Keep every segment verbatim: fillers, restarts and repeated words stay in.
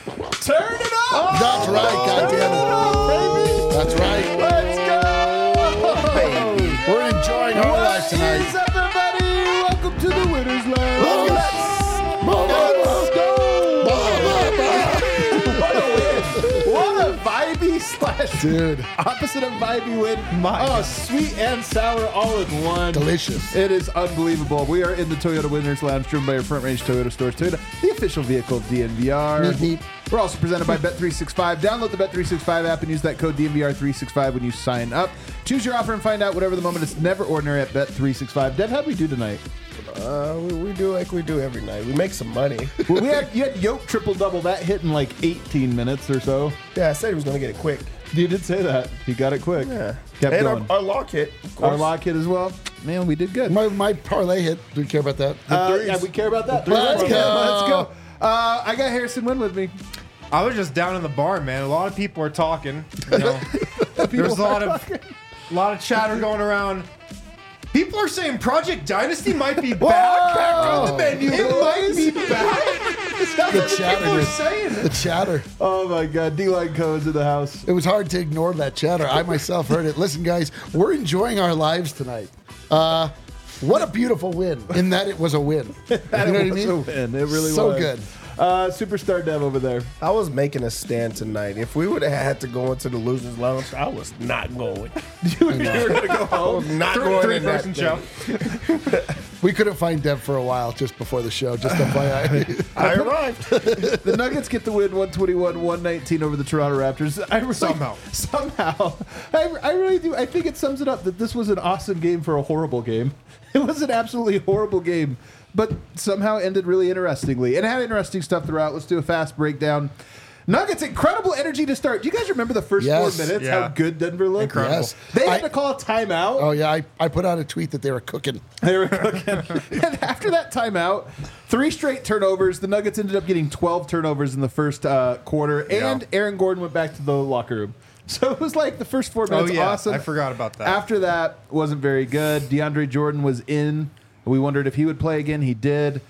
Turn it up! Oh, that's right, goddammit. That's right. Let's go! Baby. We're enjoying our What life tonight. is up, everybody? Welcome to the Winner's Lounge. Let's Let's go! go. What a win! What a vibey slash Dude. opposite of vibey win. My oh, God. sweet and sour all in one. Delicious. It is unbelievable. We are in the Toyota Winners Lounge, driven by your Front Range Toyota stores. Toyota, the official vehicle of D N V R. Neat, neat. We're also presented by Bet three sixty-five. Download the Bet three sixty-five app and use that code D N V R three sixty-five when you sign up. Choose your offer and find out whatever the moment. It's never ordinary at Bet three sixty-five. Dev, how'd we do tonight? Uh, we, we do like we do every night. We make some money. Well, we had, you had Yoke triple double. That hit in like eighteen minutes or so. Yeah, I said he was going to get it quick. You did say that. He got it quick. Yeah. Kept and going. our, our lock hit. of Our course. lock hit as well. Man, we did good. My, my parlay hit. Do we care about that? Uh, threes. yeah, we care about that. Let's Let's go. Let's go. Uh, I got Harrison Wynn with me. I was just down in the bar, man. A lot of people are talking. You know, there's a lot of a lot of chatter going around. People are saying Project Dynasty might be back. Back on the menu. It might be back. That's The what chatter. people are dude. saying. The chatter. Oh my God, D-Line Cohen's in the house. It was hard to ignore that chatter. I myself heard it. Listen, guys, we're enjoying our lives tonight. Uh, what a beautiful win in that it was a win. You know what I It was mean? a win. It really So was. good. Uh, Superstar Dev over there. I was making a stand tonight. If we would have had to go into the losers lounge, I was not going. You were going to go I home. was not Three, going three in that person thing. show. We couldn't find Dev for a while just before the show. Just F Y I. I arrived. The Nuggets get the win one twenty-one one nineteen over the Toronto Raptors. I really, Somehow. Somehow. I, I really do. I think it sums it up that this was an awesome game for a horrible game. It was an absolutely horrible game, but somehow ended really interestingly. And it had interesting stuff throughout. Let's do a fast breakdown. Nuggets, incredible energy to start. Do you guys remember the first Yes. four minutes, Yeah. how good Denver looked? Incredible. Yes. They had I- to call a timeout. Oh, yeah. I, I put out a tweet that they were cooking. They were cooking. And after that timeout, three straight turnovers. The Nuggets ended up getting twelve turnovers in the first uh, quarter, and Yeah. Aaron Gordon went back to the locker room. So it was like the first four minutes Oh, yeah. awesome. I forgot about that. After that, wasn't very good. DeAndre Jordan was in. We wondered if he would play again. He did.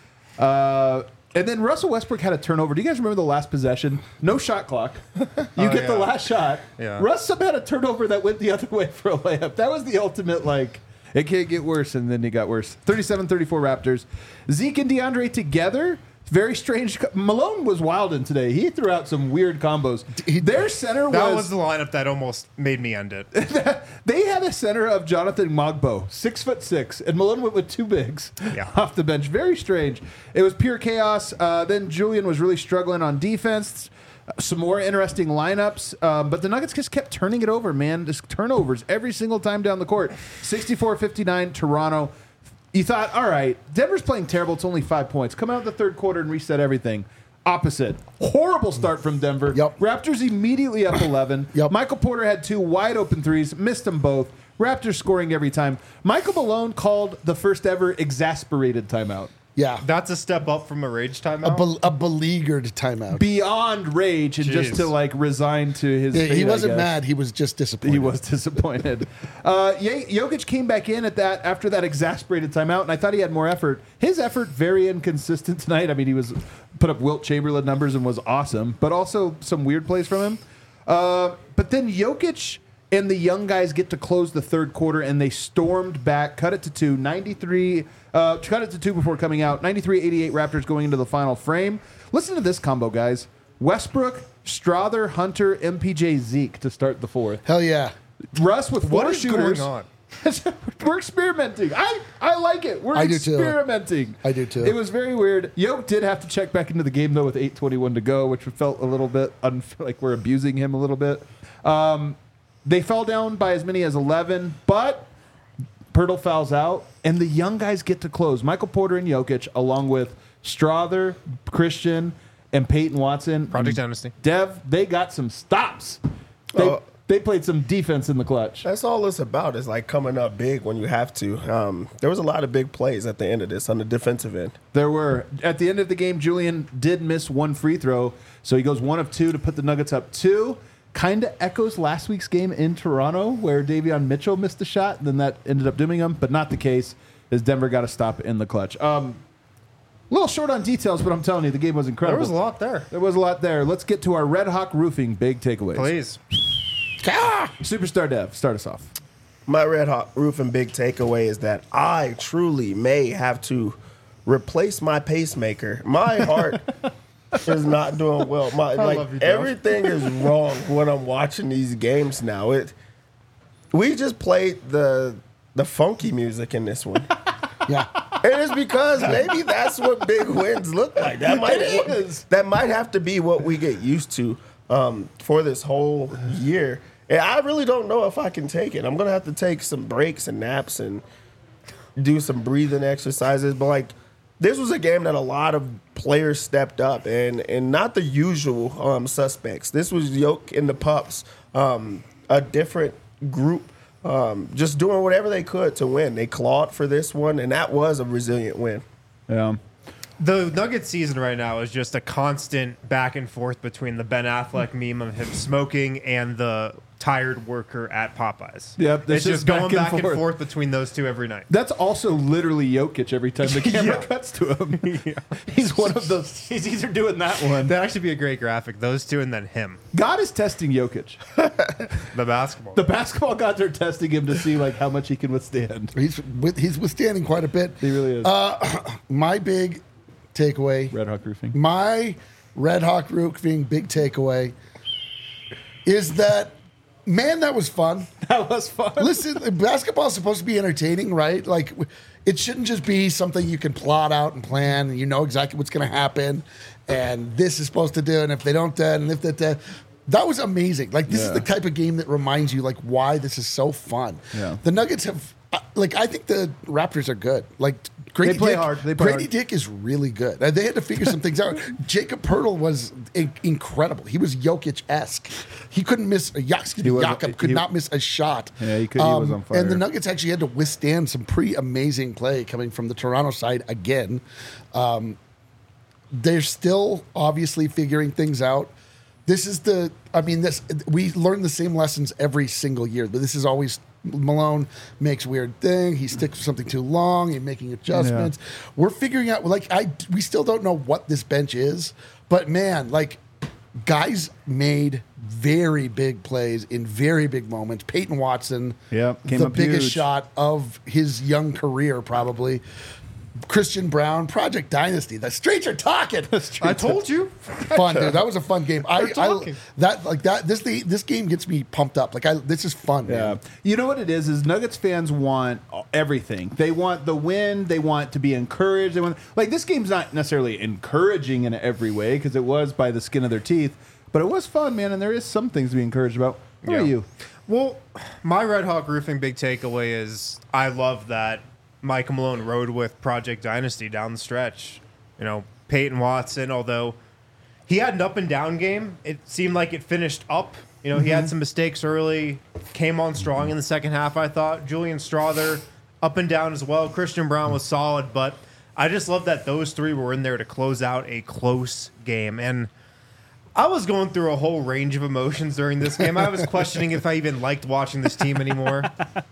Uh, and then Russell Westbrook had a turnover. Do you guys remember the last possession? No shot clock. You Oh, get the yeah. last shot. Yeah. Russ somehow had a turnover that went the other way for a layup. That was the ultimate, like, it can't get worse, and then it got worse. thirty-seven thirty-four Raptors. Zeke and DeAndre together. Very strange. co- Malone was wild in today. He threw out some weird combos. He- Their center That was, was the lineup that almost made me end it. they had a center of Jonathan Mogbo, six foot six, and Malone went with two bigs Yeah. off the bench. Very strange. It was pure chaos. Uh, then Julian was really struggling on defense. Some more interesting lineups, um, but the Nuggets just kept turning it over, man. Just turnovers every single time down the court. sixty-four fifty-nine Toronto. You thought, all right, Denver's playing terrible. It's only five points. Come out the third quarter and reset everything. Opposite. Horrible start from Denver. Yep. Raptors immediately up eleven. Yep. Michael Porter had two wide open threes, missed them both. Raptors scoring every time. Michael Malone called the first ever exasperated timeout. Yeah. That's a step up from a rage A, timeout. bel a beleaguered timeout. Beyond rage and just Jeez. to like resign to his Yeah, fate, he I wasn't guess. mad. He was just disappointed. He was disappointed. uh, Ye- Jokic came back in at that after that exasperated timeout, and I thought he had more effort. His effort very inconsistent tonight. I mean, he was put up Wilt Chamberlain numbers and was awesome, but also some weird plays from him. Uh, but then Jokic and the young guys get to close the third quarter, and they stormed back, cut it to two, ninety-three, uh, cut it to two before coming out. ninety-three eighty-eight Raptors going into the final frame. Listen to this combo, guys. Westbrook, Strother, Hunter, M P J, Zeke to start the fourth. Hell yeah. Russ with four what is shooters. going on? We're experimenting. I, I like it. We're I do too. experimenting. I do too. It was very weird. Yoke did have to check back into the game though with eight twenty-one to go, which felt a little bit unf- like we're abusing him a little bit. Um, they fell down by as many as eleven, but Pirtle fouls out, and the young guys get to close. Michael Porter and Jokic, along with Strother, Christian, and Peyton Watson. Project and Dynasty. Dev, they got some stops. They, Oh. they played some defense in the clutch. That's all it's about is like coming up big when you have to. Um, there was a lot of big plays at the end of this on the defensive end. There were. At the end of the game, Julian did miss one free throw, so he goes one of two to put the Nuggets up two. Kind of echoes last week's game in Toronto where Davion Mitchell missed a shot, and then that ended up dooming him, but not the case, as Denver got a stop in the clutch. Um, A little short on details, but I'm telling you, the game was incredible. There was a lot there. There was a lot there. Let's get to our Red Hawk Roofing big takeaways. Please. Ah! Superstar Dev, start us off. My Red Hawk Roofing big takeaway is that I truly may have to replace my pacemaker. My heart is not doing well. My I like love you, Joe. everything is wrong when I'm watching these games now. It we just played the the funky music in this one. Yeah. And it's because maybe that's what big wins look like. That might It is. that might have to be what we get used to um, for this whole year. And I really don't know if I can take it. I'm gonna have to take some breaks and naps and do some breathing exercises. But like, this was a game that a lot of players stepped up, and and not the usual um, suspects. This was Yoke and the Pups, um, a different group. Um, just doing whatever they could to win. They clawed for this one, and that was a resilient win. Yeah. The Nuggets season right now is just a constant back and forth between the Ben Affleck meme of him smoking and the tired worker at Popeyes. Yep, it's it's just just going back and back and forth. forth between those two every night. That's also literally Jokic every time the camera Yeah. cuts to him. He's one of those. He's either doing that one. That'd actually be a great graphic. Those two and then him. God is testing Jokic. The basketball. The basketball gods are testing him to see like how much he can withstand. He's with, he's withstanding quite a bit. He really is. My big takeaway, Red Hawk Roofing. my Red Hawk Roofing big takeaway is that, man, that was fun. That was fun. Listen, basketball is supposed to be entertaining, right? Like, it shouldn't just be something you can plot out and plan, and you know exactly what's going to happen, and this is supposed to do, and if they don't do it, and if that, that. That was amazing. Like, this Yeah. is the type of game that reminds you, like, why this is so fun. Yeah. The Nuggets have, uh, like, I think the Raptors are good. Like, Grady They play Dick, hard. They play Grady hard. Dick is really good. And they had to figure some things out. Jacob Pertl was in- incredible. He was Jokic-esque. He couldn't miss, uh, yeah, excuse me, He was- Jakob could he- not miss a shot. Yeah, he could- he was on fire. And the Nuggets actually had to withstand some pretty amazing play coming from the Toronto side again. Um, they're still obviously figuring things out. This is the, I mean, this we learn the same lessons every single year, but this is always Malone makes weird thing. He sticks with something too long. He's making adjustments. We're figuring out, like, I we still don't know what this bench is, but man, like, guys made very big plays in very big moments. Peyton Watson, Yep, came the up biggest huge. shot of his young career, probably. Christian Brown, Project Dynasty. The streets are talking. I told you. Fun, dude. That was a fun game. I, We're I talking. that like that. This the, this game gets me pumped up. Like I, this is fun. Yeah. Man. You know what it is? Is Nuggets fans want everything. They want the win. They want to be encouraged. They want like this game's not necessarily encouraging in every way because it was by the skin of their teeth, but it was fun, man. And there is some things to be encouraged about. What Yeah. are you? Well, my Red Hawk Roofing big takeaway is I love that Mike Malone rode with Project Dynasty down the stretch. You know, Peyton Watson, although he had an up and down game, it seemed like it finished up. You know, he had some mistakes early, came on strong in the second half, I thought. Julian Strawther, up and down as well. Christian Brown was solid, but I just love that those three were in there to close out a close game. And I was going through a whole range of emotions during this game. I was questioning if I even liked watching this team anymore.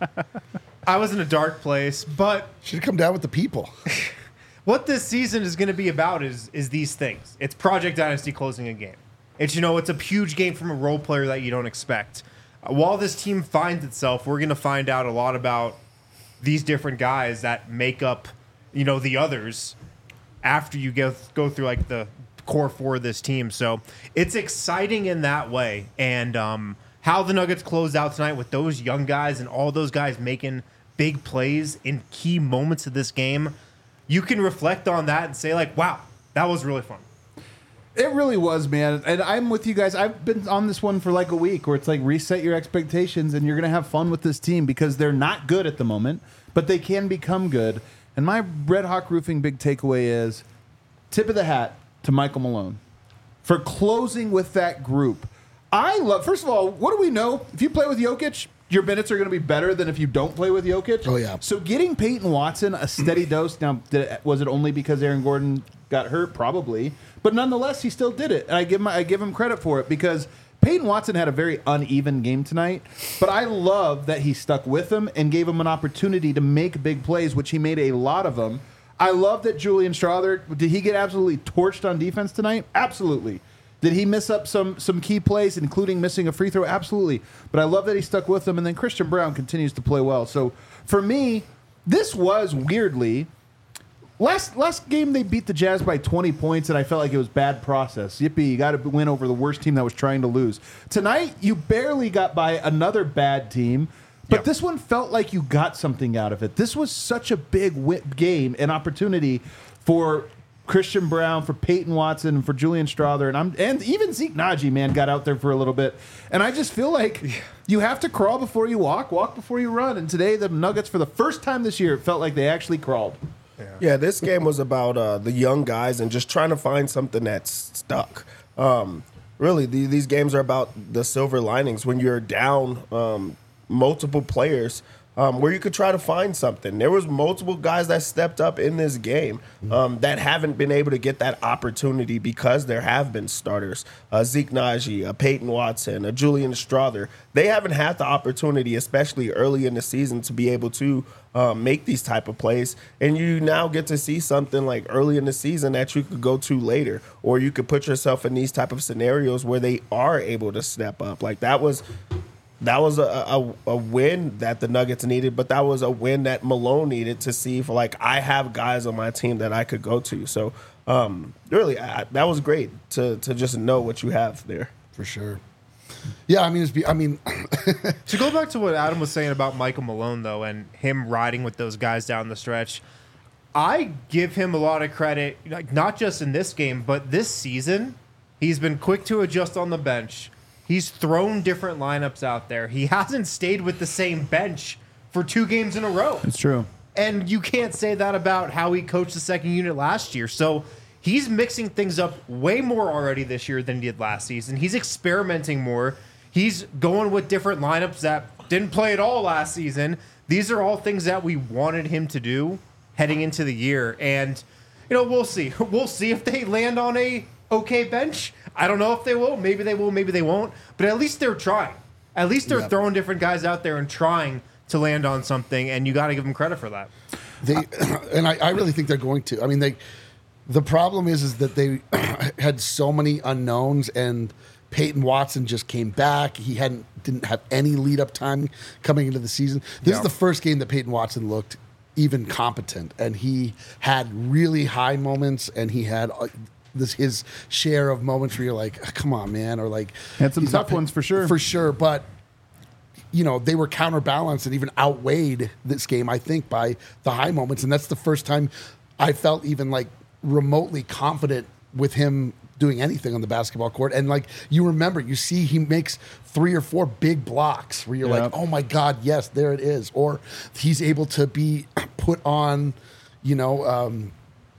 I was in a dark place, but Should have come down with the people. what this season is going to be about is is these things. It's Project Dynasty closing a game. It's, you know, it's a huge game from a role player that you don't expect. Uh, while this team finds itself, we're going to find out a lot about these different guys that make up, you know, the others after you go go through like the core four of this team. So it's exciting in that way. And um, how the Nuggets close out tonight with those young guys and all those guys making big plays in key moments of this game, you can reflect on that and say, like, wow, that was really fun. It really was, man. And I'm with you guys. I've been on this one for like a week where it's like reset your expectations and you're going to have fun with this team because they're not good at the moment, but they can become good. And my Red Hawk Roofing big takeaway is tip of the hat to Michael Malone for closing with that group. I love, first of all, what do we know? If you play with Jokic, your minutes are going to be better than if you don't play with Jokic. Oh, yeah. So getting Peyton Watson a steady dose. Now, did it, was it only because Aaron Gordon got hurt? Probably. But nonetheless, he still did it. And I give him, I give him credit for it because Peyton Watson had a very uneven game tonight. But I love that he stuck with him and gave him an opportunity to make big plays, which he made a lot of them. I love that Julian Strother, did he get absolutely torched on defense tonight? Absolutely. Did he miss up some some key plays, including missing a free throw? Absolutely. But I love that he stuck with them, and then Christian Braun continues to play well. So for me, this was weirdly last last game they beat the Jazz by twenty points, and I felt like it was bad process. Yippee, you got to win over the worst team that was trying to lose. Tonight, you barely got by another bad team. But Yep. this one felt like you got something out of it. This was such a big wi- game, an opportunity for Christian Braun, for Peyton Watson, for Julian Strother, and I'm and even Zeke Naji, man, got out there for a little bit. And I just feel like you have to crawl before you walk, walk before you run. And today, the Nuggets, for the first time this year, it felt like they actually crawled. Yeah, this game was about uh, the young guys and just trying to find something that's stuck. Um, really, the, these games are about the silver linings when you're down um, multiple players. Um, where you could try to find something. There was multiple guys that stepped up in this game um, that haven't been able to get that opportunity because there have been starters. Uh, Zeke Naji, uh, Peyton Watson, uh, Julian Strother. They haven't had the opportunity, especially early in the season, to be able to um, make these type of plays. And you now get to see something like early in the season that you could go to later, or you could put yourself in these type of scenarios where they are able to step up. Like that was... That was a, a a win that the Nuggets needed, but that was a win that Malone needed to see for, like, I have guys on my team that I could go to. So, um, really, I, that was great to to just know what you have there. For sure. Yeah, I mean, it's be, I mean, To go back to what Adam was saying about Michael Malone, though, and him riding with those guys down the stretch, I give him a lot of credit, like not just in this game, but this season. He's been quick to adjust on the bench. He's thrown different lineups out there. He hasn't stayed with the same bench for two games in a row. It's true. And you can't say that about how he coached the second unit last year. So he's mixing things up way more already this year than he did last season. He's experimenting more. He's going with different lineups that didn't play at all last season. These are all things that we wanted him to do heading into the year. And, you know, we'll see. We'll see if they land on a okay bench. I don't know if they will. Maybe they will. Maybe they won't. But at least they're trying. At least they're Yep. throwing different guys out there and trying to land on something, and you got to give them credit for that. they, and I, I really think they're going to. I mean, they. The problem is, is that they had so many unknowns, and Peyton Watson just came back. He hadn't didn't have any lead up time coming into the season. This Yeah. is the first game that Peyton Watson looked even competent, and he had really high moments, and he had. Uh, This his share of moments where you're like, come on, man, or like Had some he's tough not- ones for sure. for sure. But you know, they were counterbalanced and even outweighed this game, I think, by the high moments, and that's the first time I felt even like remotely confident with him doing anything on the basketball court. And like you remember, you see he makes three or four big blocks where you're Yep. like, oh my God, yes, there it is, or he's able to be put on, you know. Um,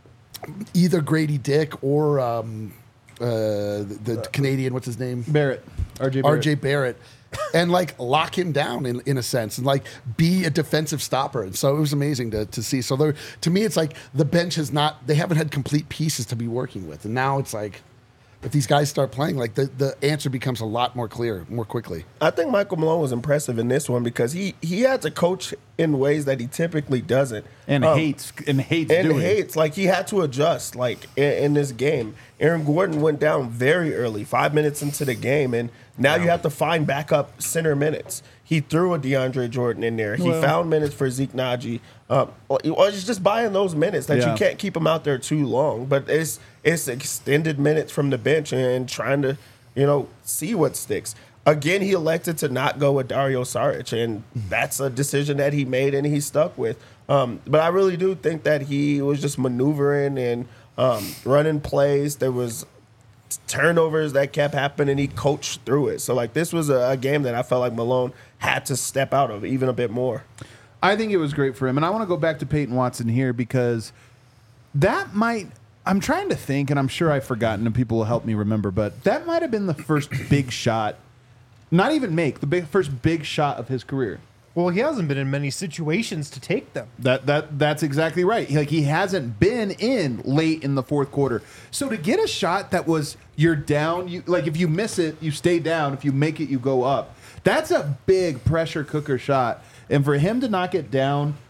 either Grady Dick or um, uh, the, the Canadian, what's his name? Barrett. R J Barrett. R J Barrett. And like lock him down in, in a sense and like be a defensive stopper. And so it was amazing to, to see. So there, to me, it's like the bench has not, they haven't had complete pieces to be working with. And now it's like, if these guys start playing, like the, the answer becomes a lot more clear, more quickly. I think Michael Malone was impressive in this one because he he had to coach in ways that he typically doesn't, And Um, hates and hates and doing. hates. Like he had to adjust. Like in, in this game, Aaron Gordon went down very early, five minutes into the game, and now you have to find backup center minutes. He threw a DeAndre Jordan in there. He Well- found minutes for Zeke Naji. Um, or it's just buying those minutes that Yeah. you can't keep him out there too long. But it's it's extended minutes from the bench and trying to you know see what sticks. Again, he elected to not go with Dario Saric, and that's a decision that he made and he stuck with. Um, but I really do think that he was just maneuvering and um, running plays. There was turnovers that kept happening. He coached through it. So like this was a, a game that I felt like Malone had to step out of even a bit more. I think it was great for him. And I want to go back to Peyton Watson here because that might, I'm trying to think, and I'm sure I've forgotten and people will help me remember, but that might have been the first big shot, not even make, the big, first big shot of his career. Well, he hasn't been in many situations to take them. That that that's exactly right. Like he hasn't been in late in the fourth quarter. So to get a shot that was you're down, you like if you miss it, you stay down. If you make it, you go up. That's a big pressure cooker shot. And for him to knock it down,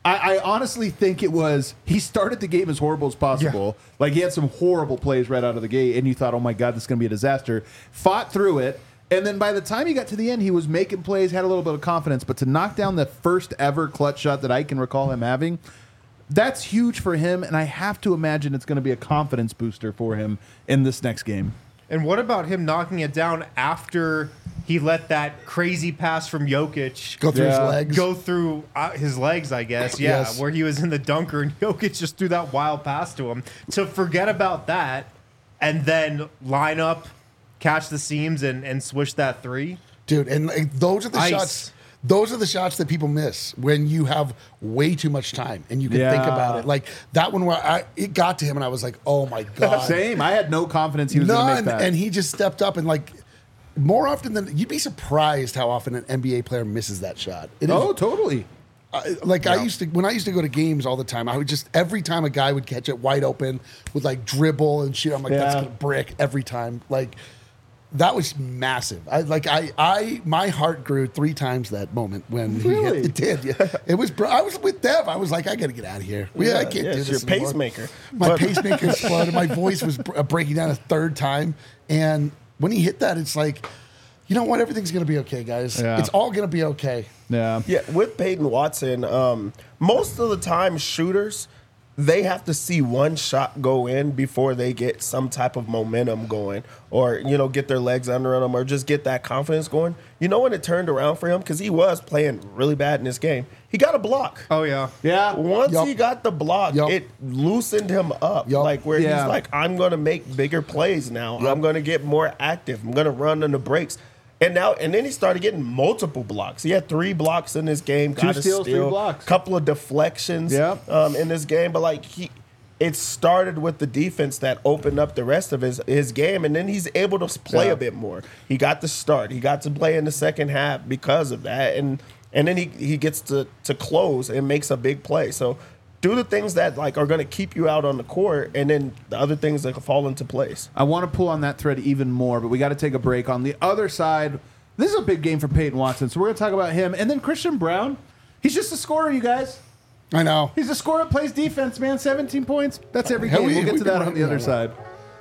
I, I honestly think it was he started the game as horrible as possible. Yeah. Like he had some horrible plays right out of the gate, and you thought, oh my God, this is going to be a disaster. Fought through it, and then by the time he got to the end, he was making plays, had a little bit of confidence. But to knock down the first ever clutch shot that I can recall him having, that's huge for him, and I have to imagine it's going to be a confidence booster for him in this next game. And what about him knocking it down after he let that crazy pass from Jokic Go through Yeah. his legs. go through uh, his legs, I guess. Yeah, Yes. where he was in the dunker and Jokic just threw that wild pass to him. To forget about that and then line up, catch the seams, and, and swish that three. Dude, and like, those are the Ice. shots. Those are the shots that people miss when you have way too much time and you can think Yeah. about it. Like that one where I, it got to him and I was like, oh my God. Same. I had no confidence he was going to None. make that. And he just stepped up and like more often than you'd be surprised how often an N B A player misses that shot. It is, oh, totally. I- like I used to when I used to go to games all the time. I would just every time a guy would catch it wide open with like dribble and shit. I'm like, that's Yeah. gonna brick every time. Like that was massive. I like I I my heart grew three times that moment when he Really? hit, it did. Yeah, it was. br- I was with Dev. I was like, I gotta get out of here. Yeah, I can't yeah, do it's this. your anymore. pacemaker. My But- pacemaker exploded. My voice was br- uh, breaking down a third time. And when he hit that, it's like, you know what? Everything's gonna be okay, guys. Yeah. It's all gonna be okay. Yeah. Yeah, with Peyton Watson, um, most of the time shooters, they have to see one shot go in before they get some type of momentum going or, you know, get their legs under them or just get that confidence going. You know when it turned around for him? Because he was playing really bad in this game. He got a block. Oh, yeah. Yeah. Once Yup. he got the block, Yup. it loosened him up. Yup. Like where Yeah. he's like, I'm going to make bigger plays now. Yup. I'm going to get more active. I'm going to run on the breaks. And now, and then he started getting multiple blocks. He had three blocks in this game. Two got a steals, three steal, blocks. couple of deflections Yep. um, in this game. But like he, it started with the defense that opened up the rest of his his game, and then he's able to play Yeah. a bit more. He got the start. He got to play in the second half because of that, and and then he he gets to to close and makes a big play. So. Do the things that like are going to keep you out on the court, and then the other things that fall into place. I want to pull on that thread even more, but we got to take a break. On the other side, this is a big game for Peyton Watson, so we're going to talk about him. And then Christian Brown, he's just a scorer, you guys. I know. He's a scorer that plays defense, man. seventeen points. That's every Hell, game. we- We'll get we to can that run on the that other one. side.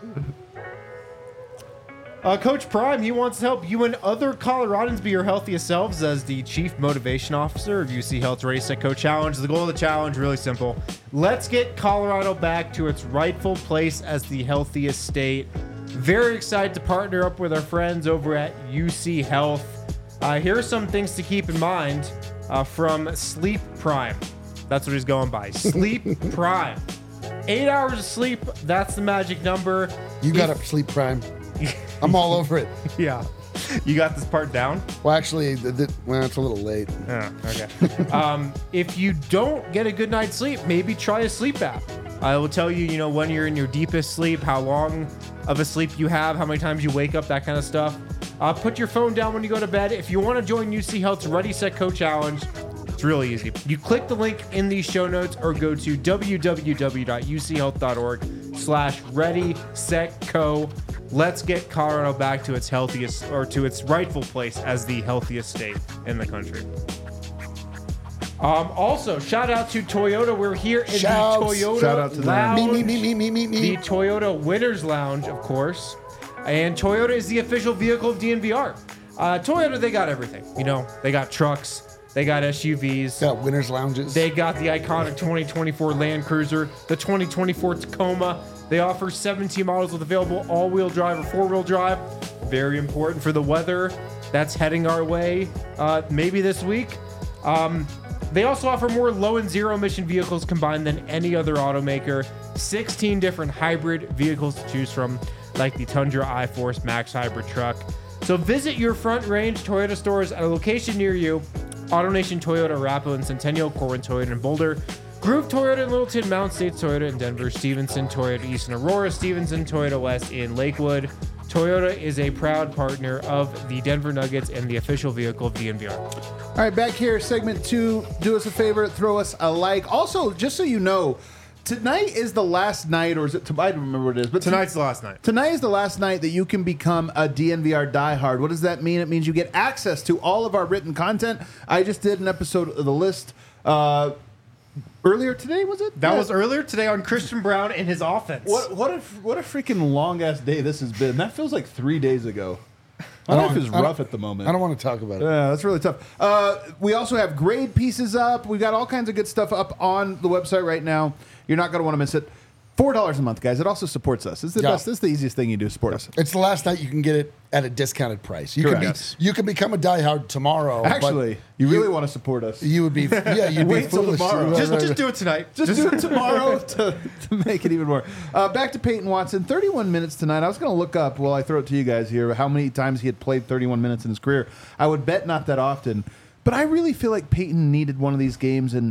Uh, Coach Prime, he wants to help you and other Coloradans be your healthiest selves as the Chief Motivation Officer of U C Health's Ready, Set, Go Challenge. The goal of the challenge, really simple. Let's get Colorado back to its rightful place as the healthiest state. Very excited to partner up with our friends over at U C Health. Uh, here are some things to keep in mind uh, from Sleep Prime. That's what he's going by. Sleep Prime. Eight hours of sleep, that's the magic number. You got If- to sleep prime. I'm all over it. Yeah. You got this part down? Well, actually, the, the, well, it's a little late. Yeah, okay. um, if you don't get a good night's sleep, maybe try a sleep app. I will tell you, you know, when you're in your deepest sleep, how long of a sleep you have, how many times you wake up, that kind of stuff. Uh, put your phone down when you go to bed. If you want to join U C Health's Ready, Set, Go Challenge, it's really easy. You click the link in these show notes or go to www.uchealth.org slash ready, set, go. Let's get Colorado back to its healthiest or to its rightful place as the healthiest state in the country. Um, also, shout out to Toyota. We're here in Shouts. the Toyota Shout out to them. Lounge. Me, me, me, me, me, me, The me. Toyota Winners Lounge, of course. And Toyota is the official vehicle of D N V R. Uh, Toyota, they got everything. You know, they got trucks, they got S U Vs, Got winners lounges. they got the iconic twenty twenty-four Land Cruiser, the twenty twenty-four Tacoma. They offer seventeen models with available all-wheel drive or four-wheel drive. Very important for the weather that's heading our way uh, maybe this week. Um, they also offer more low and zero emission vehicles combined than any other automaker. sixteen different hybrid vehicles to choose from, like the Tundra iForce Max Hybrid truck. So visit your Front Range Toyota stores at a location near you. AutoNation Toyota, Arapahoe and Centennial, Corwin Toyota in Boulder, Groove Toyota in Littleton, Mountain States Toyota in Denver, Stevenson Toyota East in Aurora, Stevenson Toyota West in Lakewood. Toyota is a proud partner of the Denver Nuggets and the official vehicle of D N V R. All right, back here, segment two. Do us a favor, throw us a like. Also, just so you know, tonight is the last night, or is it? I don't remember what it is, but Tonight's the last night. Tonight is the last night that you can become a D N V R diehard. What does that mean? It means you get access to all of our written content. I just did an episode of The List. Uh, Earlier today, was it? That Yeah. was earlier today on Christian Brown and his offense. What what a what a freaking long ass day this has been. That feels like three days ago. My I don't- life is I don't- rough at the moment. I don't want to talk about it. Yeah, that's really tough. Uh, we also have grade pieces up. We've got all kinds of good stuff up on the website right now. You're not going to want to miss it. Four dollars a month, guys. It also supports us. It's the Yeah. best. This is the easiest thing you do to support us. It's the last night you can get it at a discounted price. You Correct. can be, Yes. you can become a diehard tomorrow. but Actually, you really want to support us. you would be yeah you'd Wait be till foolish. tomorrow. Right, just, right, just right. do it tonight. Just do it tomorrow to, to make it even more. Uh, back to Peyton Watson, thirty-one minutes tonight. I was going to look up while I throw it to you guys here how many times he had played thirty-one minutes in his career. I would bet not that often, but I really feel like Peyton needed one of these games. And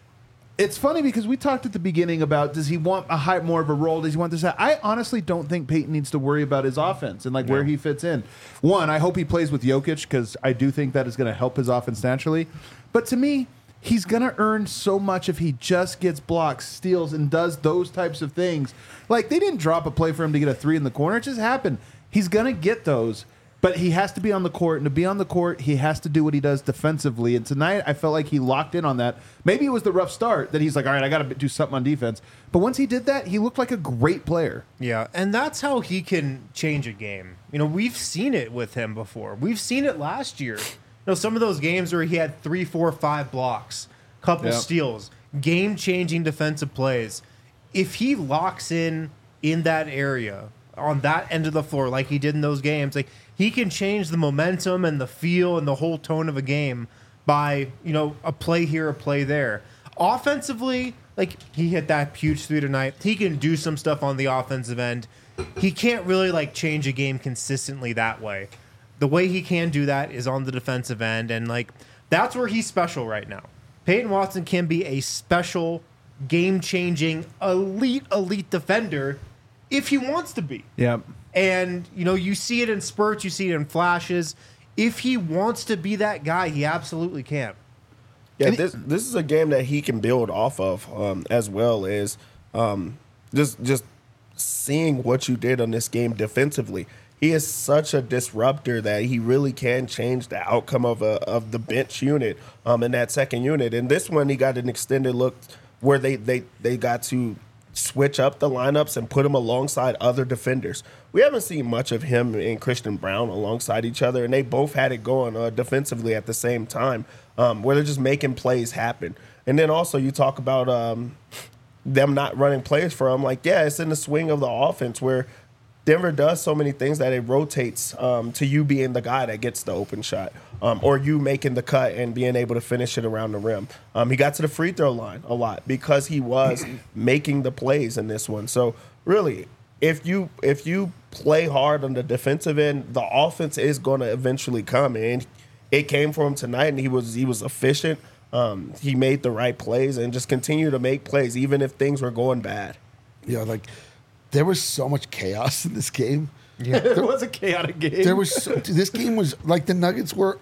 it's funny because we talked at the beginning about does he want a high more of a role? Does he want this? I honestly don't think Peyton needs to worry about his offense and like where he fits in. One, I hope he plays with Jokic because I do think that is going to help his offense naturally. But to me, he's going to earn so much if he just gets blocks, steals, and does those types of things. Like, they didn't drop a play for him to get a three in the corner. It just happened. He's going to get those, but he has to be on the court. And to be on the court, he has to do what he does defensively. And tonight, I felt like he locked in on that. Maybe it was the rough start that he's like, all right, I got to do something on defense. But once he did that, he looked like a great player. Yeah, and that's how he can change a game. You know, we've seen it with him before. We've seen it last year. You know, some of those games where he had three, four, five blocks, couple Yeah. steals, game-changing defensive plays. If he locks in in that area on that end of the floor like he did in those games, like he can change the momentum and the feel and the whole tone of a game by, you know, a play here, a play there. Offensively, like he hit that huge three tonight. He can do some stuff on the offensive end. He can't really like change a game consistently that way. The way he can do that is on the defensive end, and like that's where he's special right now. Peyton Watson can be a special, game-changing, elite, elite defender if he wants to be. Yeah. And, you know, you see it in spurts, you see it in flashes. If he wants to be that guy, he absolutely can. Yeah, this this is a game that he can build off of, um, as well as um, just just seeing what you did on this game defensively. He is such a disruptor that he really can change the outcome of a of the bench unit um, in that second unit. And this one, he got an extended look where they they they got to switch up the lineups and put him alongside other defenders. We haven't seen much of him and Christian Brown alongside each other, and they both had it going uh, defensively at the same time, um, where they're just making plays happen. And then also you talk about um, them not running plays for him. Like, yeah, it's in the swing of the offense where Denver does so many things that it rotates um, to you being the guy that gets the open shot, um, or you making the cut and being able to finish it around the rim. Um, he got to the free throw line a lot because he was making the plays in this one. So really, if you if you play hard on the defensive end, the offense is going to eventually come, and it came for him tonight. And he was he was efficient. Um, he made the right plays and just continued to make plays even if things were going bad. Yeah, like there was so much chaos in this game. It was a chaotic game. There was so, this game was like the Nuggets were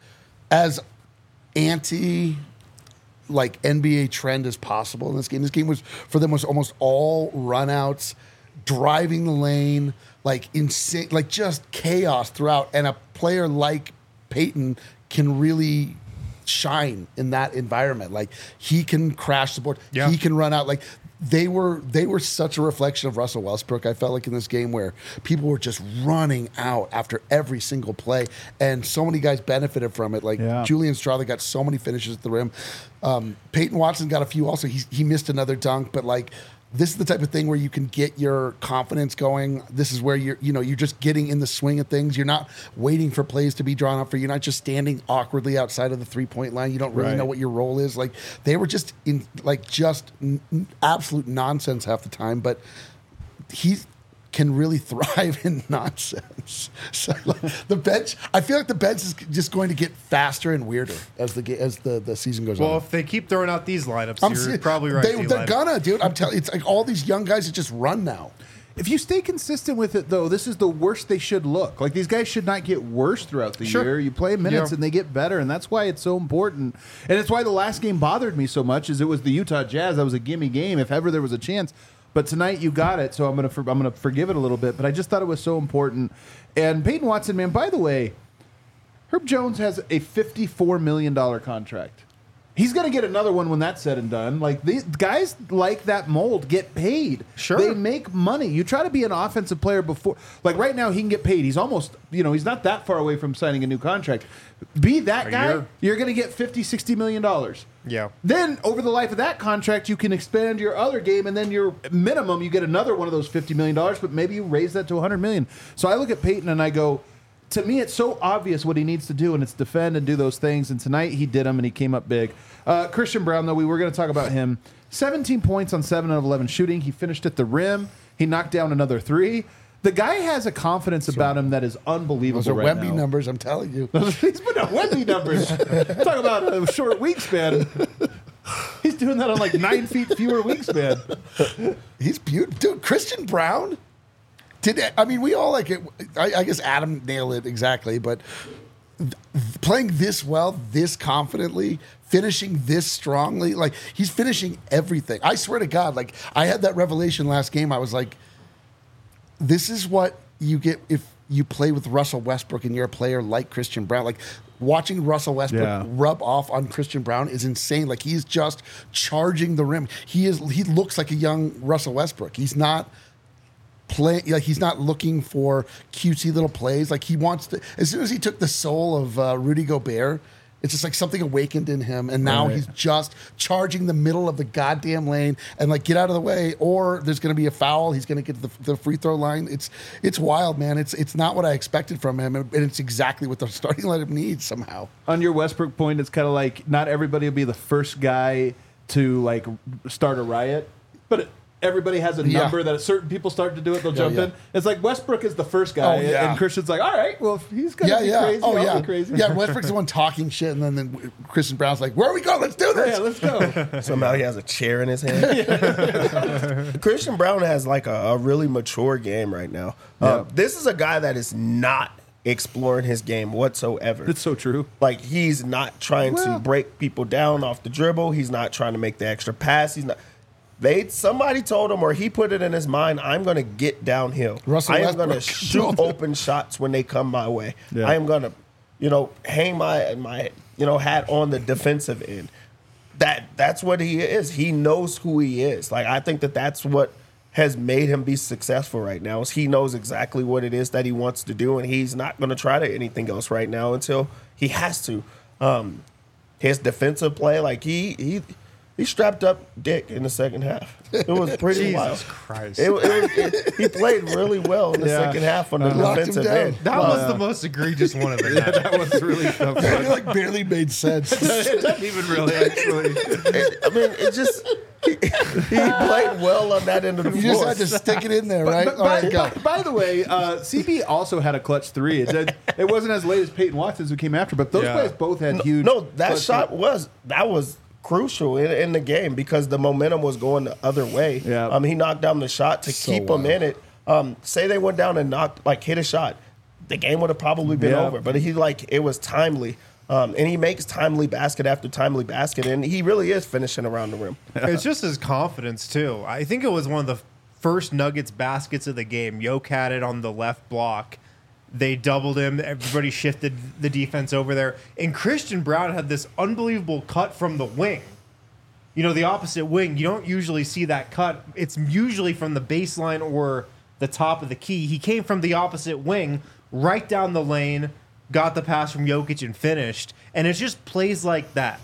as anti like N B A trend as possible in this game. This game was for them was almost all runouts, driving the lane, like insane, like just chaos throughout. And a player like Peyton can really shine in that environment. Like he can crash the board. Yeah. He can run out. Like they were they were such a reflection of Russell Westbrook. I felt like in this game where people were just running out after every single play, and so many guys benefited from it. Like Yeah. Julian Strawley got so many finishes at the rim. Um, Peyton Watson got a few also. He he missed another dunk, but like this is the type of thing where you can get your confidence going. This is where you're, you know, you're just getting in the swing of things. You're not waiting for plays to be drawn up for you. You're not just standing awkwardly outside of the three point line. You don't really Right. know what your role is. Like they were just in like just n- n- absolute nonsense half the time, but he can really thrive in nonsense. So like, the bench, I feel like the bench is just going to get faster and weirder as the ga- as the, the season goes Well, on. if they keep throwing out these lineups, I'm you're se- probably right. They, D-line. they're gonna, dude. I'm telling you, it's like all these young guys that just run now. If you stay consistent with it, though, this is the worst they should look. Like, these guys should not get worse throughout the Sure. year. You play minutes Yeah. and they get better, and that's why it's so important. And it's why the last game bothered me so much, is it was the Utah Jazz. That was a gimme game if ever there was a chance. But tonight you got it, so I'm gonna for, I'm gonna forgive it a little bit. But I just thought it was so important. And Peyton Watson, man, by the way, Herb Jones has a fifty-four million dollars contract. He's going to get another one when that's said and done. Like these guys like that mold get paid. Sure. They make money. You try to be an offensive player before. Like right now, he can get paid. He's almost, you know, he's not that far away from signing a new contract. Be that A guy, year. you're going to get fifty, sixty million dollars. Yeah. Then over the life of that contract, you can expand your other game, and then your minimum, you get another one of those fifty million dollars, but maybe you raise that to one hundred million dollars. So I look at Peyton and I go, to me, it's so obvious what he needs to do, and it's defend and do those things. And tonight he did them, and he came up big. Uh, Christian Brown, though, we were going to talk about him. seventeen points on seven out of eleven shooting. He finished at the rim. He knocked down another three. The guy has a confidence about him that is unbelievable Those are right Wemby now. numbers, I'm telling you. He's putting up Wemby numbers. Talk about a short wingspan. He's doing that on like nine feet fewer wingspan. He's beautiful. Dude, Christian Brown? Did I mean, we all like it. I, I guess Adam nailed it exactly, but th- playing this well, this confidently, finishing this strongly, like he's finishing everything. I swear to God, like I had that revelation last game. I was like, this is what you get if you play with Russell Westbrook and you're a player like Christian Brown. Like watching Russell Westbrook Yeah. rub off on Christian Brown is insane. Like he's just charging the rim. He is. He looks like a young Russell Westbrook. He's not play like he's not looking for cutesy little plays. Like he wants to. As soon as he took the soul of uh, Rudy Gobert, it's just like something awakened in him, and now Right. he's just charging the middle of the goddamn lane and like get out of the way, or there's going to be a foul. He's going to get to the, the free throw line. It's it's wild, man. It's it's not what I expected from him, and it's exactly what the starting lineup needs somehow. On your Westbrook point, it's kind of like not everybody will be the first guy to like start a riot, but it, everybody has a Yeah. number that certain people start to do it, they'll Yeah, jump yeah. in. It's like Westbrook is the first guy, Oh, yeah. and Christian's like, all right, well, if he's gonna Yeah, be yeah. crazy, Oh, I'll yeah. be crazy. Yeah, Westbrook's the one talking shit, and then, then Christian Brown's like, "Where we go? Let's do this." Yeah, let's go. Somehow he has a chair in his hand. Christian Brown has like a, a really mature game right now. Uh, Yeah. This is a guy that is not exploring his game whatsoever. It's so true. Like he's not trying Well- to break people down off the dribble. He's not trying to make the extra pass. He's not. They somebody told him, or he put it in his mind, I'm going to get downhill. Russell I am going to Westbrook shoot told him. open shots when they come my way. Yeah. I am going to, you know, hang my my you know hat on the defensive end. That that's what he is. He knows who he is. Like I think that that's what has made him be successful right now. Is he knows exactly what it is that he wants to do, and he's not going to try to anything else right now until he has to. Um, his defensive play, like he he he strapped up Dick in the second half. It was pretty Jesus wild. Christ. It, it was, it, he played really well in the Yeah. second half on the Locked him defensive down. end. that was the most egregious one of the night. That was really tough. It like barely made sense. It doesn't even really, actually. It- I mean, it just he, he played well on that end of the You just floor. had to stick it in there, right? But All by, right, go. by, by the way, uh, C B also had a clutch three. It, did, it wasn't as late as Peyton Watson's who came after, but those Yeah. guys both had No, huge. no, that clutch shot three. was that was crucial in, in the game because the momentum was going the other way. Yeah. Um, he knocked down the shot to So keep them wild. in it. Um, say they went down and knocked like hit a shot, the game would have probably been Yeah. over. But he like it was timely. Um, and he makes timely basket after timely basket, and he really is finishing around the rim. It's just his confidence too. I think it was one of the first Nuggets baskets of the game. Yoke had it on the left block. They doubled him. Everybody shifted the defense over there. And Christian Brown had this unbelievable cut from the wing. You know, the opposite wing. You don't usually see that cut. It's usually from the baseline or the top of the key. He came from the opposite wing, right down the lane, got the pass from Jokic and finished. And it's just plays like that.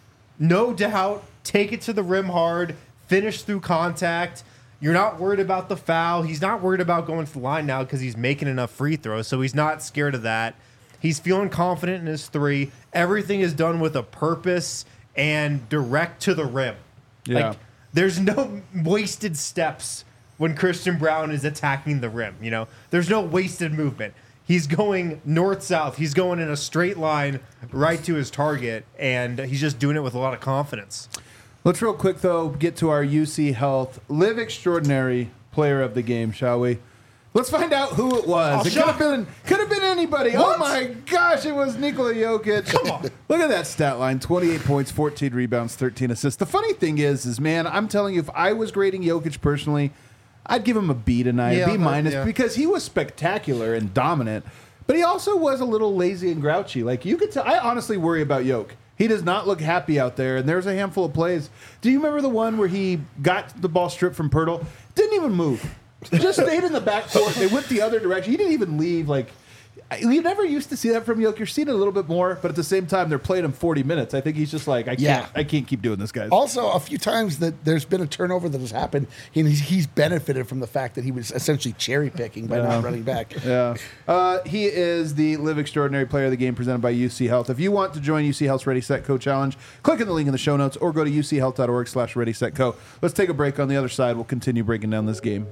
No doubt, take it to the rim hard, finish through contact. You're not worried about the foul. He's not worried about going to the line now because he's making enough free throws, so he's not scared of that. He's feeling confident in his three. Everything is done with a purpose and direct to the rim. Yeah. Like, there's no wasted steps when Christian Brown is attacking the rim, you know? There's no wasted movement. He's going north-south. He's going in a straight line right to his target, and he's just doing it with a lot of confidence. Let's real quick, though, get to our U C Health Live Extraordinary player of the game, shall we? Let's find out who it was. Oh, it could have been could have been anybody. What? Oh my gosh, it was Nikola Jokic. Come on. Look at that stat line. twenty-eight points, fourteen rebounds, thirteen assists. The funny thing is, is man, I'm telling you, if I was grading Jokic personally, I'd give him a B tonight, Yeah, B minus, yeah. because he was spectacular and dominant. But he also was a little lazy and grouchy. Like you could tell, I honestly worry about Yoke. He does not look happy out there, and there's a handful of plays. Do you remember the one where he got the ball stripped from Pirtle? Didn't even move. Just stayed in the backcourt. They went the other direction. He didn't even leave. Like, you never used to see that from Jokic. You're seeing it a little bit more, but at the same time, they're playing him forty minutes. I think he's just like, I Yeah. can't, I can't keep doing this, guys. Also, a few times that there's been a turnover that has happened, and he's, he's benefited from the fact that he was essentially cherry picking by not running back. Yeah. Uh, he is the Live Extraordinary Player of the Game presented by U C Health. If you want to join U C Health's Ready, Set, Co challenge, click on the link in the show notes or go to uchealth.org slash Ready, Set, Co. Let's take a break. On the other side, we'll continue breaking down this game.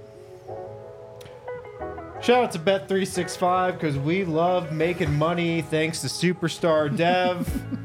Shout out to Bet three sixty-five because we love making money thanks to Superstar Dev.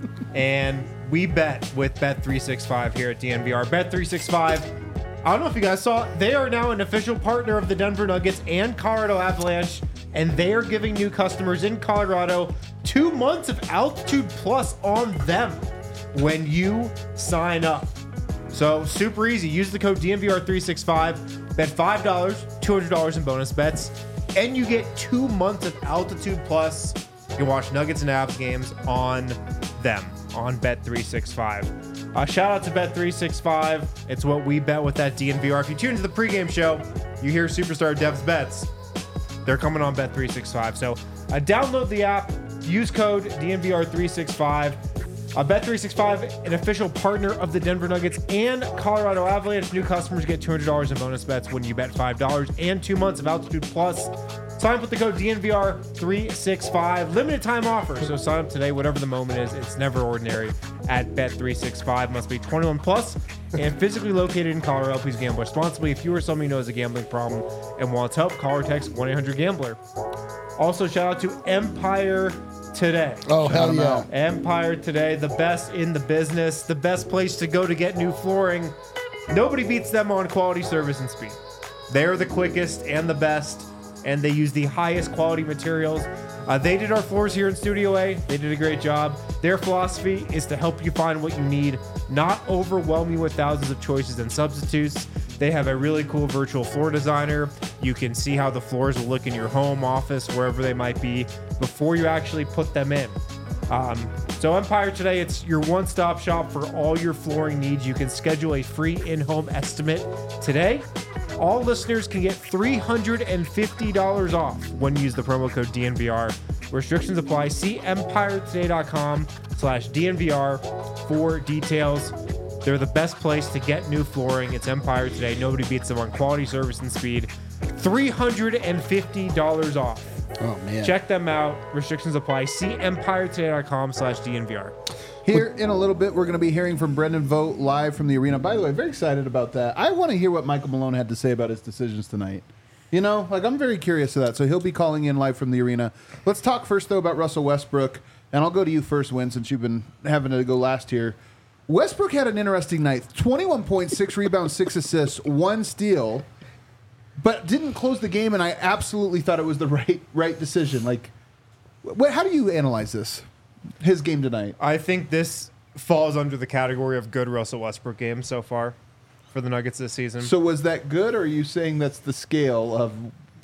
And we bet with Bet three sixty-five here at D N V R. Bet three sixty-five, I don't know if you guys saw, they are now an official partner of the Denver Nuggets and Colorado Avalanche. And they are giving new customers in Colorado two months of Altitude Plus on them when you sign up. So super easy. Use the code D N V R three sixty-five. Bet five dollars, two hundred dollars in bonus bets. And you get two months of Altitude Plus. You can watch Nuggets and Avs games on them, on Bet three sixty-five. Uh, shout out to Bet three sixty-five. It's what we bet with that D N V R. If you tune into the pregame show, you hear Superstar Dev's bets. They're coming on Bet three sixty-five. So uh, download the app, use code D N V R three sixty-five. Uh, Bet three sixty-five, an official partner of the Denver Nuggets and Colorado Avalanche. New customers get two hundred dollars in bonus bets when you bet five dollars and two months of Altitude Plus. Sign up with the code D N V R three sixty-five. Limited time offer, so sign up today, whatever the moment is. It's never ordinary at Bet three sixty-five. Must be twenty-one plus and physically located in Colorado. Please gamble responsibly. If you or someone you know has a gambling problem and wants help, call or text one eight hundred gambler. Also, shout out to Empire Today. Oh, hell yeah. Empire Today, the best in the business, the best place to go to get new flooring. Nobody beats them on quality, service, and speed. They're the quickest and the best, and they use the highest quality materials. Uh, they did our floors here in Studio A. They did a great job. Their philosophy is to help you find what you need, not overwhelm you with thousands of choices and substitutes. They have a really cool virtual floor designer. You can see how the floors will look in your home, office, wherever they might be, before you actually put them in. Um, so Empire Today, it's your one-stop shop for all your flooring needs. You can schedule a free in-home estimate today. All listeners can get three hundred fifty dollars off when you use the promo code D N V R. Restrictions apply. See empiretoday.com slash DNVR for details. They're the best place to get new flooring. It's Empire Today. Nobody beats them on quality, service, and speed. three hundred fifty dollars off. Oh, man. Check them out. Restrictions apply. See empiretoday.com slash DNVR. Here in a little bit, we're going to be hearing from Brendan Vogt live from the arena. By the way, very excited about that. I want to hear what Michael Malone had to say about his decisions tonight. You know, like I'm very curious of that. So he'll be calling in live from the arena. Let's talk first, though, about Russell Westbrook. And I'll go to you first, Win, since you've been having to go last here. Westbrook had an interesting night. twenty-one points, six rebounds, six assists, one steal, but didn't close the game, and I absolutely thought it was the right right decision. Like, what, how do you analyze this, his game tonight? I think this falls under the category of good Russell Westbrook game so far for the Nuggets this season. So was that good, or are you saying that's the scale of...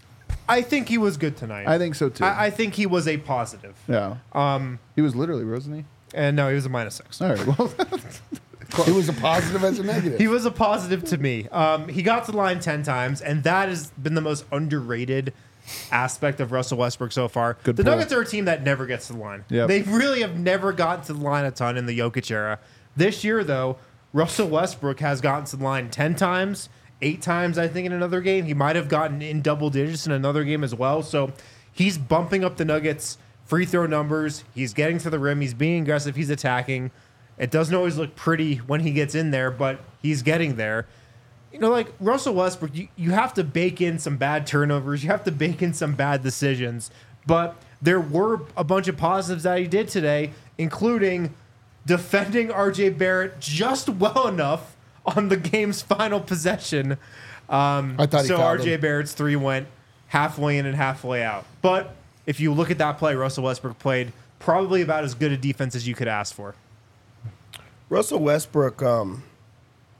I think he was good tonight. I think so, too. I, I think he was a positive. yeah. Um, He was literally, wasn't he? and no, he was a minus six. All right, well... It was a positive as a negative. He was a positive to me. Um, he got to the line ten times, and that has been the most underrated aspect of Russell Westbrook so far. Good the pull. Nuggets are a team that never gets to the line. Yep. They really have never gotten to the line a ton in the Jokic era. This year, though, Russell Westbrook has gotten to the line ten times, eight times, I think, in another game. He might have gotten in double digits in another game as well. So he's bumping up the Nuggets' free throw numbers. He's getting to the rim. He's being aggressive. He's attacking. It doesn't always look pretty when he gets in there, but he's getting there. You know, like Russell Westbrook, you, you have to bake in some bad turnovers. You have to bake in some bad decisions. But there were a bunch of positives that he did today, including defending R J Barrett just well enough on the game's final possession. Um, I thought he so fouled R J him. Barrett's three went halfway in and halfway out. But if you look at that play, Russell Westbrook played probably about as good a defense as you could ask for. Russell Westbrook, um,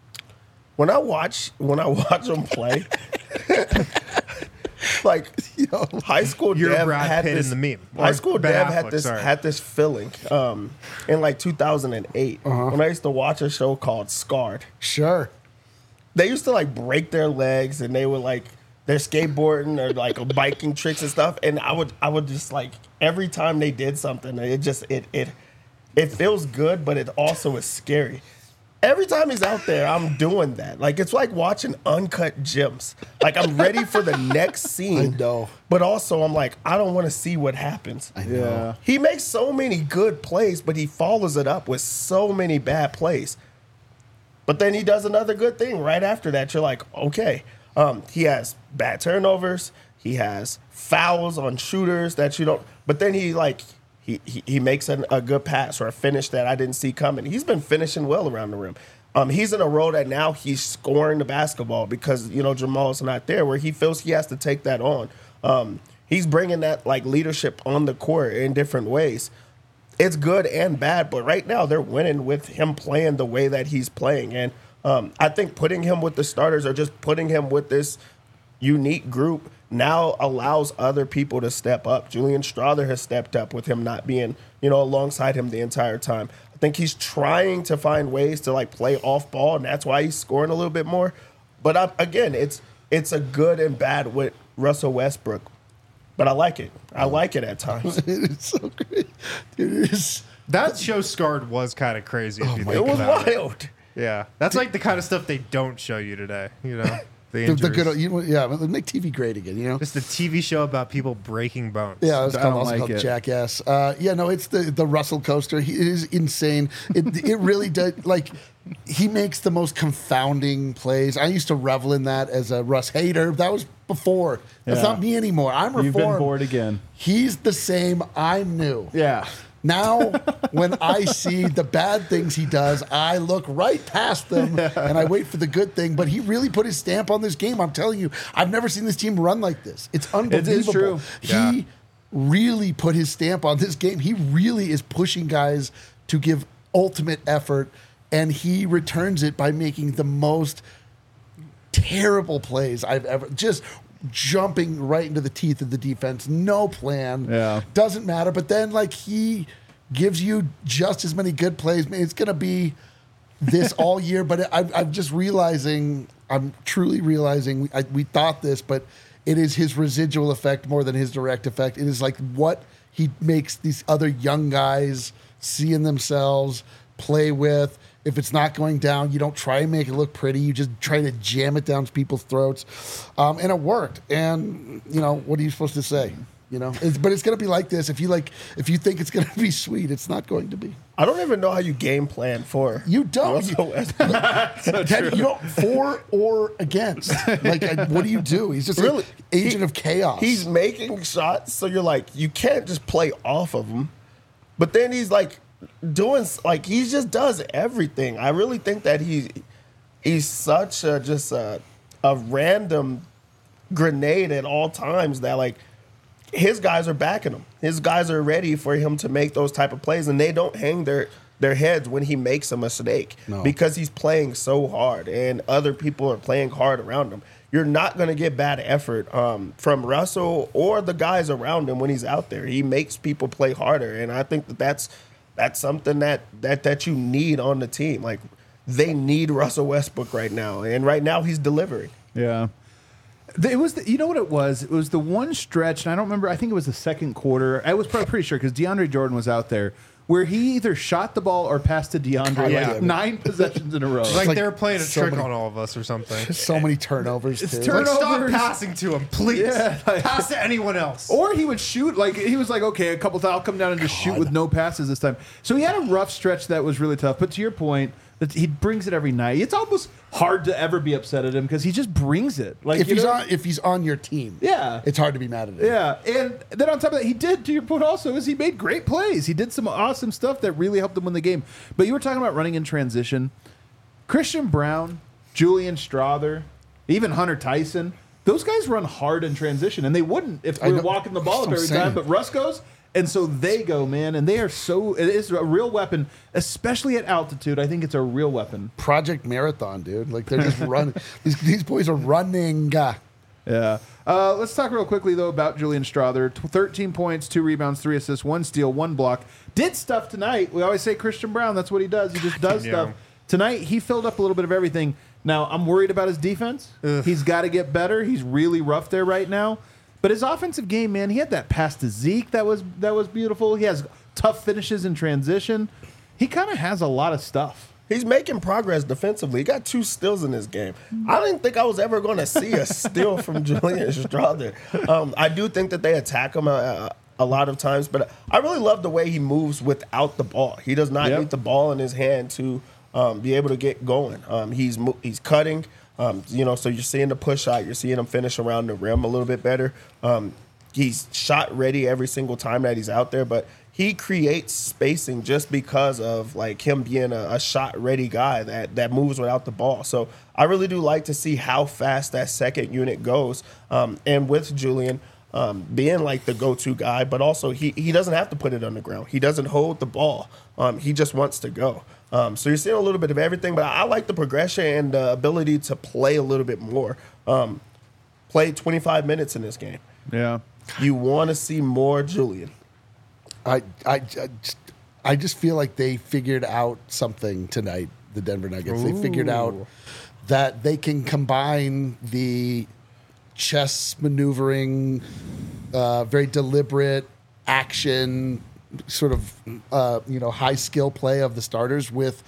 when I watch when I watch him play, like know. High school You're Dev Brad had Pitt this. in the meme. High Or school Ben Dev Affleck, had this sorry. had this feeling um, in like two thousand eight Uh-huh. when I used to watch a show called Scarred. Sure. They used to like break their legs and they would like they're skateboarding or like biking tricks and stuff. And I would I would just like every time they did something, it just it it it feels good, but it also is scary. Every time he's out there, I'm doing that. Like it's like watching Uncut Gems. Like I'm ready for the next scene. I know. But also I'm like, I don't want to see what happens. I know. Yeah. He makes so many good plays, but he follows it up with so many bad plays. But then he does another good thing right after that. You're like, okay. Um, he has bad turnovers. He has fouls on shooters that you don't. But then he like he he, he makes an, a good pass or a finish that I didn't see coming. He's been finishing well around the rim. Um, he's in a role that now he's scoring the basketball because you know Jamal's not there, where he feels he has to take that on. Um, he's bringing that like leadership on the court in different ways. It's good and bad, but right now they're winning with him playing the way that he's playing. And um, I think putting him with the starters or just putting him with this unique group now allows other people to step up. Julian Strother has stepped up with him not being, you know, alongside him the entire time. I think he's trying to find ways to like play off ball, and that's why he's scoring a little bit more. But I, again, it's it's a good and bad with Russell Westbrook. But I like it. I like it at times. It's so great. Dude, it is. That show Scarred was kind of crazy. If you It think was about it. wild. Yeah, that's like the kind of stuff they don't show you today. You know, the The, injuries. the good, you know, yeah, make T V great again, you know? Just a T V show about people breaking bones. Yeah, it's I called, don't also like called it. Jackass. Uh, yeah, no, it's the the Russell coaster. He it is insane. It it really does. Like, he makes the most confounding plays. I used to revel in that as a Russ hater. That was before. That's Yeah. not me anymore. I'm reformed. You've been bored again. He's the same. I'm new. Yeah. Now, when I see the bad things he does, I look right past them and I wait for the good thing. But he really put his stamp on this game. I'm telling you, I've never seen this team run like this. It's unbelievable. true. Yeah. He really put his stamp on this game. He really is pushing guys to give ultimate effort, and he returns it by making the most terrible plays I've ever just jumping right into the teeth of the defense. No plan. Yeah. Doesn't matter. But then like he gives you just as many good plays. Man, it's gonna be this all year. But I, I'm just realizing, I'm truly realizing we, I, we thought this, but it is his residual effect more than his direct effect. It is like what he makes these other young guys see in themselves, play with. If it's not going down, you don't try and make it look pretty. You just try to jam it down people's throats. Um, and it worked. And, you know, what are you supposed to say? You know, it's, but it's going to be like this. If you like, if you think it's going to be sweet, it's not going to be. I don't even know how you game plan for. You don't. Russell Westbrook. Ted, you don't for or against. Like, I- what do you do? He's just Really? an agent He- of chaos. He's making shots, so you're like, you can't just play off of him. But then he's like doing like he just does everything. I really think that he he's such a just a, a random grenade at all times that like his guys are backing him. His guys are ready for him to make those type of plays, and they don't hang their their heads when he makes a mistake No. because he's playing so hard and other people are playing hard around him. You're not going to get bad effort um, from Russell or the guys around him when he's out there. He makes people play harder, and I think that that's that's something that that that you need on the team. Like they need Russell Westbrook right now, and right now he's delivering. Yeah. It was, the, you know what it was? It was the one stretch, and I don't remember, I think it was the second quarter. I was probably pretty sure because DeAndre Jordan was out there, where he either shot the ball or passed to DeAndre Yeah. like nine possessions in a row. It's like, like they were playing a so trick many- on all of us or something. so many turnovers. It's too. turn- Like, stop Turnovers. passing to him, please. Yeah, like- Pass to anyone else. Or he would shoot, like, he was like, okay, a couple times, I'll come down and just shoot with no passes this time. So he had a rough stretch that was really tough. But to your point, that he brings it every night. It's almost hard to ever be upset at him because he just brings it. Like if you he's know- on, if he's on your team, Yeah. it's hard to be mad at him. Yeah, and then on top of that, he did, to your point also, is he made great plays. He did some awesome stuff that really helped him win the game. But you were talking about running in transition. Christian Brown, Julian Strother, even Hunter Tyson, those guys run hard in transition, and they wouldn't if I we were know. walking the ball up I'm every saying. time. But Russ goes, and so they go, man, and they are so, it is a real weapon, especially at altitude. I think it's a real weapon. Project Marathon, dude. Like they're just running. These, these boys are running. Uh, Yeah. Uh, let's talk real quickly, though, about Julian Strother. T- thirteen points, two rebounds, three assists, one steal, one block. Did stuff tonight. We always say Christian Brown. That's what he does. He just does Yeah. stuff. Tonight, he filled up a little bit of everything. Now, I'm worried about his defense. Ugh. He's got to get better. He's really rough there right now. But his offensive game, man, he had that pass to Zeke that was that was beautiful. He has tough finishes in transition. He kind of has a lot of stuff. He's making progress defensively. He got two steals in this game. I didn't think I was ever going to see a steal from Julian Strother. Um, I do think that they attack him a, a lot of times, but I really love the way he moves without the ball. He does not Yep. need the ball in his hand to um, be able to get going. Um, he's mo- he's cutting, um, you know, so you're seeing the push shot. You're seeing him finish around the rim a little bit better. Um, he's shot ready every single time that he's out there, but he creates spacing just because of like him being a, a shot ready guy that that moves without the ball. So I really do like to see how fast that second unit goes. Um, and with Julian um, being like the go-to guy, but also he he doesn't have to put it on the ground. He doesn't hold the ball. Um, he just wants to go. Um, so you're seeing a little bit of everything, but I like the progression and the ability to play a little bit more. Um, played twenty-five minutes in this game. Yeah. You want to see more Julian. I, I, I, just, I just feel like they figured out something tonight, the Denver Nuggets. They figured out Ooh. that they can combine the chess maneuvering, uh, very deliberate action, sort of uh, you know high skill play of the starters with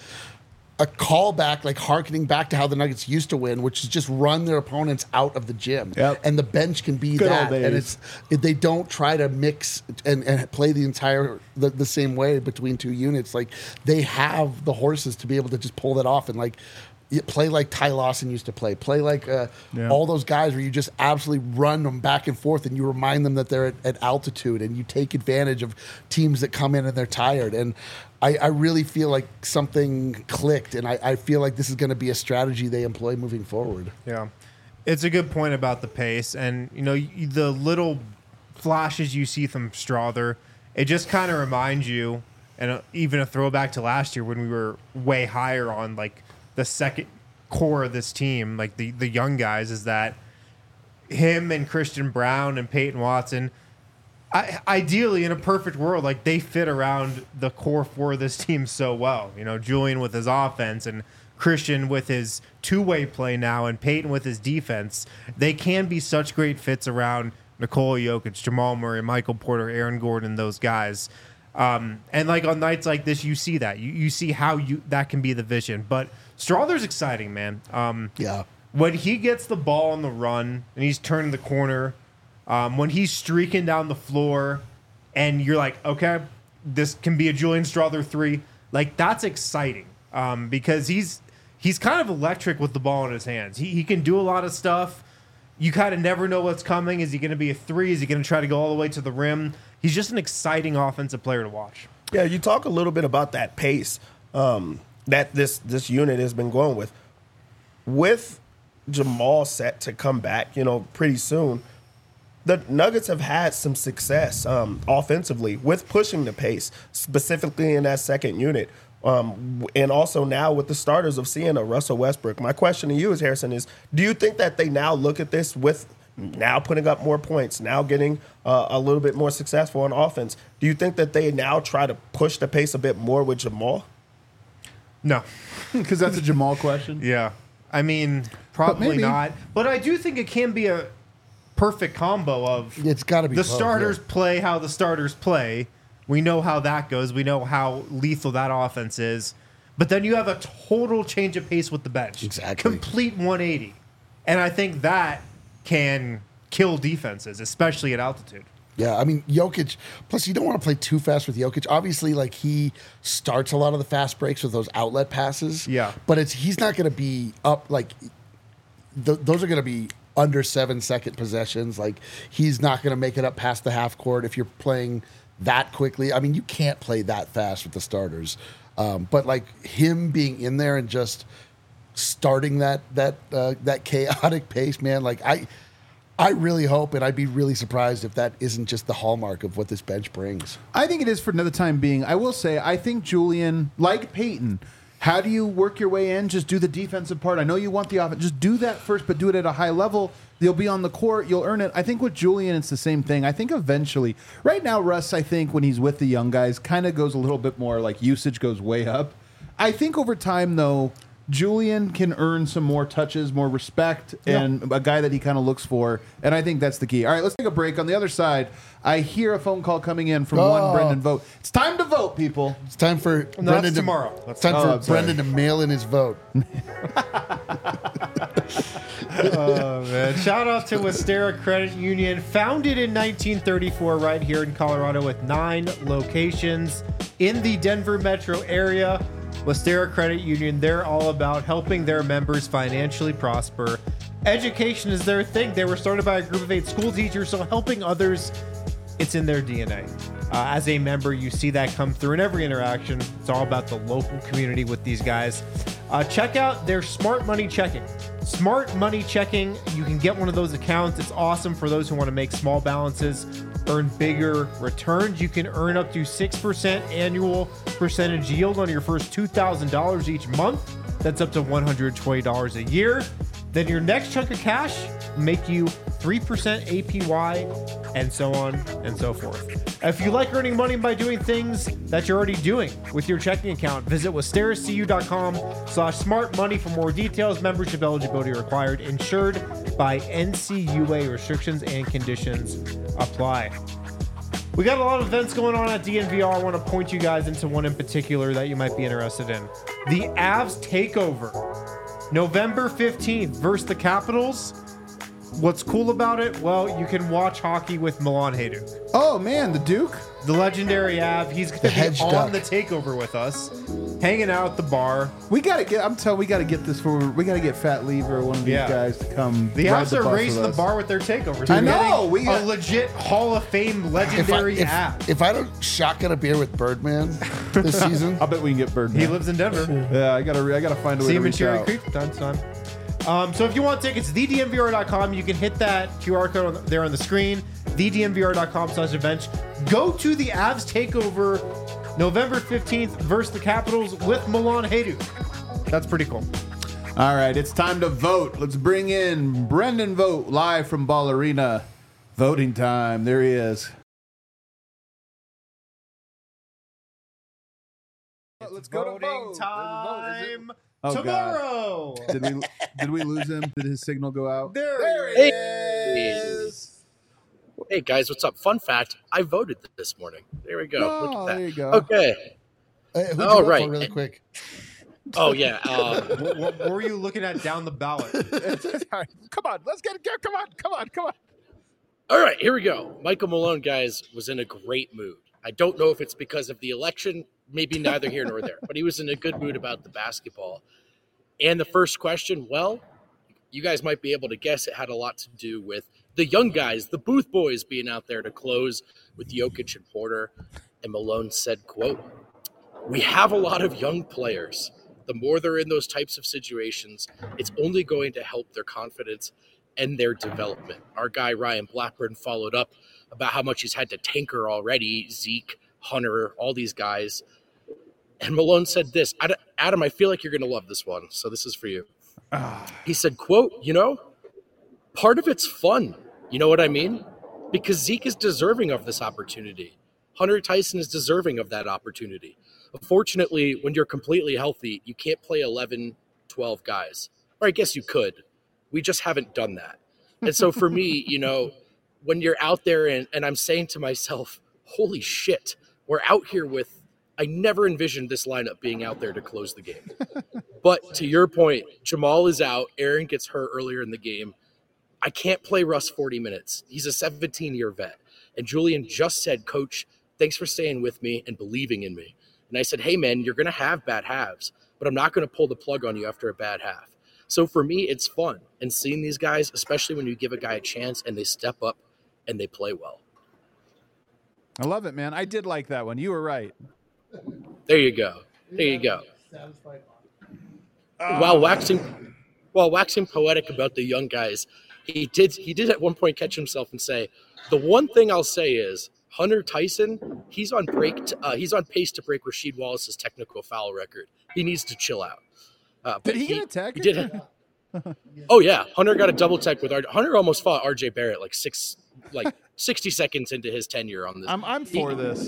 a callback, like hearkening back to how the Nuggets used to win, which is just run their opponents out of the gym. Yep. And the bench can be Good old that. And days. it's they don't try to mix and, and play the entire the, the same way between two units. Like they have the horses to be able to just pull that off and like y- play like Ty Lawson used to play. Play like uh, Yeah. all those guys where you just absolutely run them back and forth and you remind them that they're at, at altitude and you take advantage of teams that come in and they're tired. And I, I really feel like something clicked, and I, I feel like this is going to be a strategy they employ moving forward. Yeah, it's a good point about the pace, and you know y- the little flashes you see from Strother. It just kind of reminds you, and uh, even a throwback to last year when we were way higher on like the second core of this team, like the the young guys, is that him and Christian Brown and Peyton Watson. I, ideally, in a perfect world, like they fit around the core four of this team so well. You know, Julian with his offense and Christian with his two-way play now and Peyton with his defense. They can be such great fits around Nikola Jokic, Jamal Murray, Michael Porter, Aaron Gordon, those guys. Um, and like on nights like this, you see that. You, you see how you that can be the vision. But Strother's exciting, man. Um, Yeah. when he gets the ball on the run and he's turning the corner, um, when he's streaking down the floor, and you're like, okay, this can be a Julian Strother three. Like that's exciting um, because he's he's kind of electric with the ball in his hands. He he can do a lot of stuff. You kind of never know what's coming. Is he going to be a three? Is he going to try to go all the way to the rim? He's just an exciting offensive player to watch. Yeah, you talk a little bit about that pace um, that this this unit has been going with. With Jamal set to come back, you know, pretty soon, the Nuggets have had some success um, offensively with pushing the pace, specifically in that second unit. Um, and also now with the starters of seeing a Russell Westbrook. My question to you is, Harrison, is do you think that they now look at this with now putting up more points, now getting uh, a little bit more successful on offense? Do you think that they now try to push the pace a bit more with Jamal? No. Because that's a Jamal question. Yeah. I mean, probably maybe. not. But I do think it can be a perfect combo of It's got to be the both, starters yeah. play how the starters play. We know how that goes. We know how lethal that offense is. But then you have a total change of pace with the bench. Exactly. Complete one eighty. And I think that can kill defenses, especially at altitude. Yeah, I mean Jokic. Plus, you don't want to play too fast with Jokic. Obviously, like he starts a lot of the fast breaks with those outlet passes. Yeah. but it's he's not going to be up like th- those are going to be under seven second possessions. Like he's not going to make it up past the half court if you're playing that quickly. I mean, you can't play that fast with the starters. Um, but like him being in there and just starting that that uh, that chaotic pace, man. Like I. I really hope, and I'd be really surprised if that isn't just the hallmark of what this bench brings. I think it is for another time being. I will say, I think Julian, like Peyton, How do you work your way in? Just do the defensive part. I know you want the offense. Just do that first, but do it at a high level. You'll be on the court. You'll earn it. I think with Julian, it's the same thing. I think eventually, right now, Russ, I think when he's with the young guys, kind of goes a little bit more like usage goes way up. I think over time, though, Julian can earn some more touches, more respect, and a guy that he kind of looks for. And I think that's the key. All right, let's take a break. On the other side, I hear a phone call coming in from Oh. one Brendan Vogt. It's time to vote, people. It's time for No, Brendan that's to, tomorrow. It's That's- time Oh, I'm for sorry. Brendan to mail in his vote. Oh, man. Shout out to Westera Credit Union, founded in nineteen thirty-four right here in Colorado with nine locations in the Denver metro area. Westera Credit Union, they're all about helping their members financially prosper. Education is their thing. They were started by a group of eight school teachers, so helping others, it's in their D N A. Uh, as a member, you see that come through in every interaction. It's all about the local community with these guys. Uh, check out their Smart Money Checking. Smart Money Checking, you can get one of those accounts. It's awesome for those who want to make small balances, earn bigger returns. You can earn up to six percent annual percentage yield on your first two thousand dollars each month. That's up to one hundred twenty dollars a year. Then your next chunk of cash make you three percent A P Y, and so on and so forth. If you like earning money by doing things that you're already doing with your checking account, visit westeracu.com slash smart money for more details. Membership eligibility required. Insured by N C U A. Restrictions and conditions apply. We got a lot of events going on at D N V R. I want to point you guys into one in particular that you might be interested in. The Avs Takeover, November fifteenth versus the Capitals. What's cool about it? Well, you can watch hockey with Milan Hajduk, Oh, man, the Duke? the legendary Av. He's going to be hedge on duck. the Takeover with us, hanging out at the bar. We got to get, I'm telling we got to get this for, we got to get Fat Lever or one of these Yeah. guys to come. The ride Avs the are bus raising with the us. bar with their Takeovers. I We're know, getting we got- a legit Hall of Fame If I, legendary if, Av. if I don't shotgun a beer with Birdman this season, I'll bet we can get Birdman. He lives in Denver. Yeah, I got to I got to find a way See to him in reach Cherry out. Creek from time to time. Um, so if you want tickets, the d m v r dot com. You can hit that Q R code on, there on the screen, the d m v r dot com slash events. Go to the Avs Takeover November fifteenth versus the Capitals with Milan Hajduk. That's pretty cool. All right, it's time to vote. Let's bring in Brendan Vogt live from Ball Arena. Voting time. There he is. Let's go to Voting vote. time Oh, God. tomorrow. Did we did we lose him? Did his signal go out? There, There it he Hey. is. Hey guys, what's up? Fun fact: I voted this morning. There we go. Oh, Look at that. there you go. Okay. Hey, who'd you Oh, vote for right. really quick? Oh yeah. Um, what, what, what were you looking at down the ballot? Come on, let's get it. Come on, come on, come on. all right, here we go. Michael Malone, guys, was in a great mood. I don't know if it's because of the election. Maybe neither here nor there. But he was in a good mood about the basketball. And the first question, well, you guys might be able to guess it had a lot to do with the young guys, the Booth boys being out there to close with Jokic and Porter. And Malone said, quote, "We have a lot of young players. The more they're in those types of situations, it's only going to help their confidence and their development." Our guy Ryan Blackburn followed up about how much he's had to tinker already, Zeke, Hunter, all these guys. And Malone said this, Ad- Adam, I feel like you're going to love this one, so this is for you. He said, quote, "You know, part of it's fun. You know what I mean? Because Zeke is deserving of this opportunity. Hunter Tyson is deserving of that opportunity. Unfortunately, when you're completely healthy, you can't play eleven, twelve guys. Or I guess you could. We just haven't done that. And so for me, you know, when you're out there and, and I'm saying to myself, holy shit, we're out here with, I never envisioned this lineup being out there to close the game. But to your point, Jamal is out. Aaron gets hurt earlier in the game. I can't play Russ forty minutes. He's a seventeen-year vet. And Julian just said, Coach, thanks for staying with me and believing in me. And I said, hey, man, you're going to have bad halves, but I'm not going to pull the plug on you after a bad half. So for me, it's fun. And seeing these guys, especially when you give a guy a chance and they step up and they play well. I love it, man. I did like that one. You were right. There you go. There you go. While waxing, while waxing poetic about the young guys, he did he did at one point catch himself and say, "The one thing I'll say is Hunter Tyson, he's on break. To, uh, he's on pace to break Rasheed Wallace's technical foul record. He needs to chill out. Uh, Did he, get a tech? He did. Oh yeah, Hunter got a double tech with R J. Hunter almost fought R J Barrett like six, like sixty seconds into his tenure on this. I'm I'm for he, this.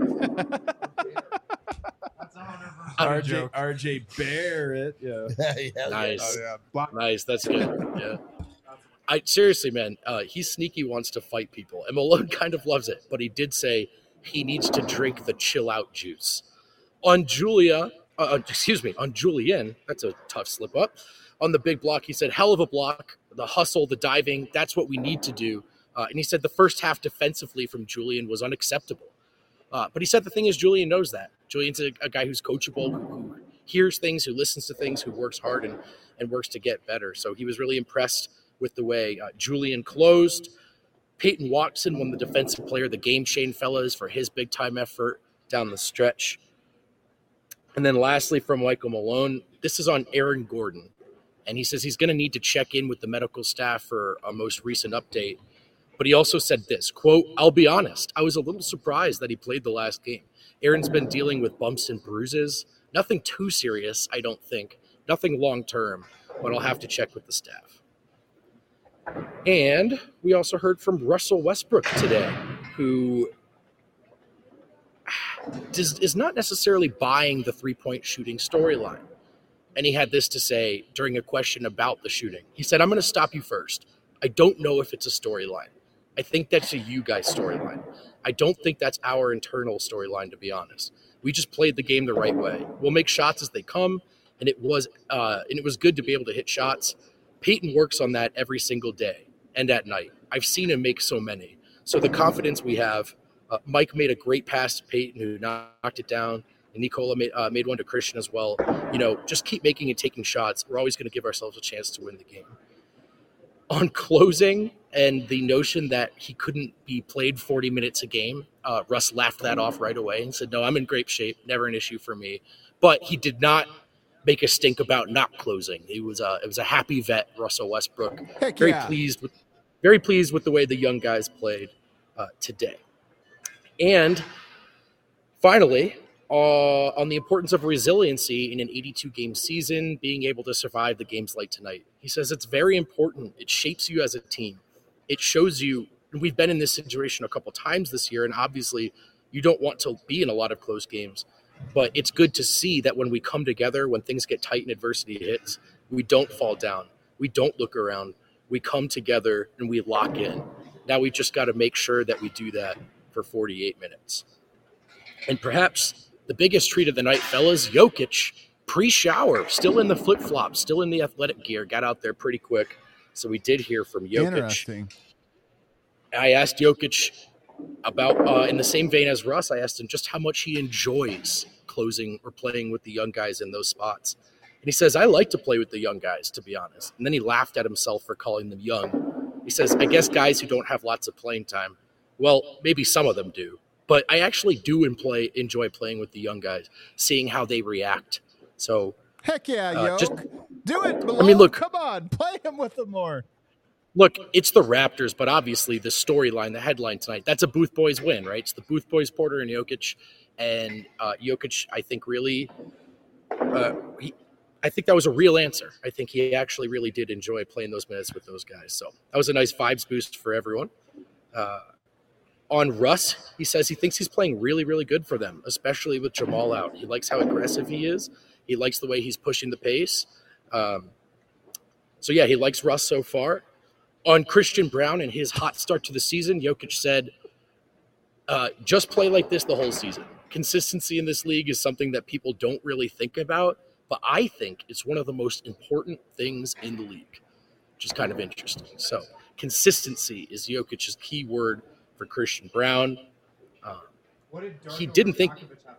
R J R J Barrett, yeah. yeah, Nice, Oh, yeah. nice. That's good. Yeah. I seriously, man, uh, he's sneaky, wants to fight people, and Malone kind of loves it. But he did say he needs to drink the chill out juice. On Julia, uh, excuse me, on Julian, that's a tough slip up. On the big block, he said, "Hell of a block, the hustle, the diving. That's what we need to do." Uh, and he said the first half defensively from Julian was unacceptable. Uh, but he said the thing is, Julian knows that. Julian's a, a guy who's coachable, who hears things, who listens to things, who works hard and, and works to get better. So he was really impressed with the way uh, Julian closed. Peyton Watson won the defensive player of the game, Shane Fellas, for his big-time effort down the stretch. And then lastly from Michael Malone, this is on Aaron Gordon. And he says he's going to need to check in with the medical staff for a most recent update. But he also said this, quote, "I'll be honest, I was a little surprised that he played the last game. Aaron's been dealing with bumps and bruises. Nothing too serious, I don't think. Nothing long-term, but I'll have to check with the staff." And we also heard from Russell Westbrook today, who does, is not necessarily buying the three-point shooting storyline. And he had this to say during a question about the shooting. He said, "I'm going to stop you first. I don't know if it's a storyline. I think that's a you guys storyline. I don't think that's our internal storyline, to be honest. We just played the game the right way. We'll make shots as they come, and it was uh, and it was good to be able to hit shots. Peyton works on that every single day and at night. I've seen him make so many. So the confidence we have, uh, Mike made a great pass to Peyton, who knocked it down, and Nicola made, uh, made one to Christian as well. You know, just keep making and taking shots. We're always going to give ourselves a chance to win the game." On closing and the notion that he couldn't be played forty minutes a game, uh, Russ laughed that off right away and said, "No, I'm in great shape. Never an issue for me." But he did not make a stink about not closing. He was a, it was a happy vet, Russell Westbrook. Heck very yeah. pleased with, very pleased with the way the young guys played uh, today. And finally, uh, on the importance of resiliency in an eighty-two game season, being able to survive the games like tonight. He says it's very important. It shapes you as a team. It shows you, we've been in this situation a couple times this year, and obviously you don't want to be in a lot of close games, but it's good to see that when we come together, when things get tight and adversity hits, we don't fall down. We don't look around. We come together and we lock in. Now we just got to make sure that we do that for forty-eight minutes. And perhaps the biggest treat of the night, fellas, Jokic, pre-shower, still in the flip-flops, still in the athletic gear, got out there pretty quick. So we did hear from Jokic. Interesting. I asked Jokic about, uh, in the same vein as Russ, I asked him just how much he enjoys closing or playing with the young guys in those spots. And he says, "I like to play with the young guys, to be honest." And then he laughed at himself for calling them young. He says, "I guess guys who don't have lots of playing time, well, maybe some of them do. But I actually do enjoy, enjoy playing with the young guys, seeing how they react." So, Heck yeah, Uh, yo. just- Do it, Malone. I mean, look- Come on. Play him with them more. look, it's the Raptors, but obviously the storyline, the headline tonight, that's a Booth Boys win, right? It's the Booth Boys, Porter and Jokic. And uh, Jokic, I think, really uh, he, I think that was a real answer. I think he actually really did enjoy playing those minutes with those guys. So that was a nice vibes boost for everyone. Uh, on Russ, he says he thinks he's playing really, really good for them, especially with Jamal out. He likes how aggressive he is. He likes the way he's pushing the pace. Um, so, yeah, he likes Russ so far. On Christian Brown and his hot start to the season, Jokic said, uh, just play like this the whole season. Consistency in this league is something that people don't really think about, but I think it's one of the most important things in the league, which is kind of interesting. So consistency is Jokic's key word for Christian Brown. Uh, he didn't think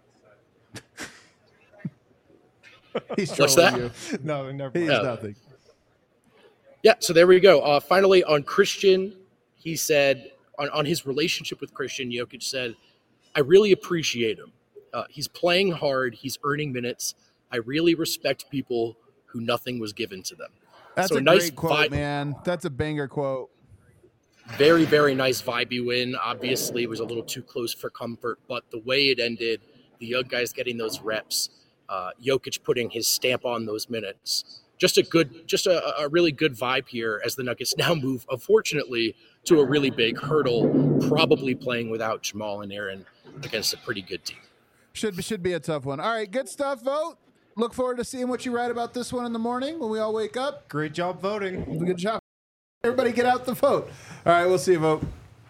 He's What's trolling that? you. No, never He's mind. Oh. nothing. Yeah, so there we go. Uh, finally, on Christian, he said, on, on his relationship with Christian, Jokic said, "I really appreciate him. Uh, he's playing hard. He's earning minutes. I really respect people who nothing was given to them." That's So a nice great quote, vi- man. That's a banger quote. Very, very nice vibey win. Obviously, it was a little too close for comfort, but the way it ended, the young guys getting those reps, uh, Jokic putting his stamp on those minutes. Just a good, just a, a really good vibe here as the Nuggets now move, unfortunately, to a really big hurdle, probably playing without Jamal and Aaron against a pretty good team. Should should be a tough one. All right, good stuff, Vote. Look forward to seeing what you write about this one in the morning when we all wake up. Great job voting. Good job. Everybody get out the vote. All right, we'll see you vote.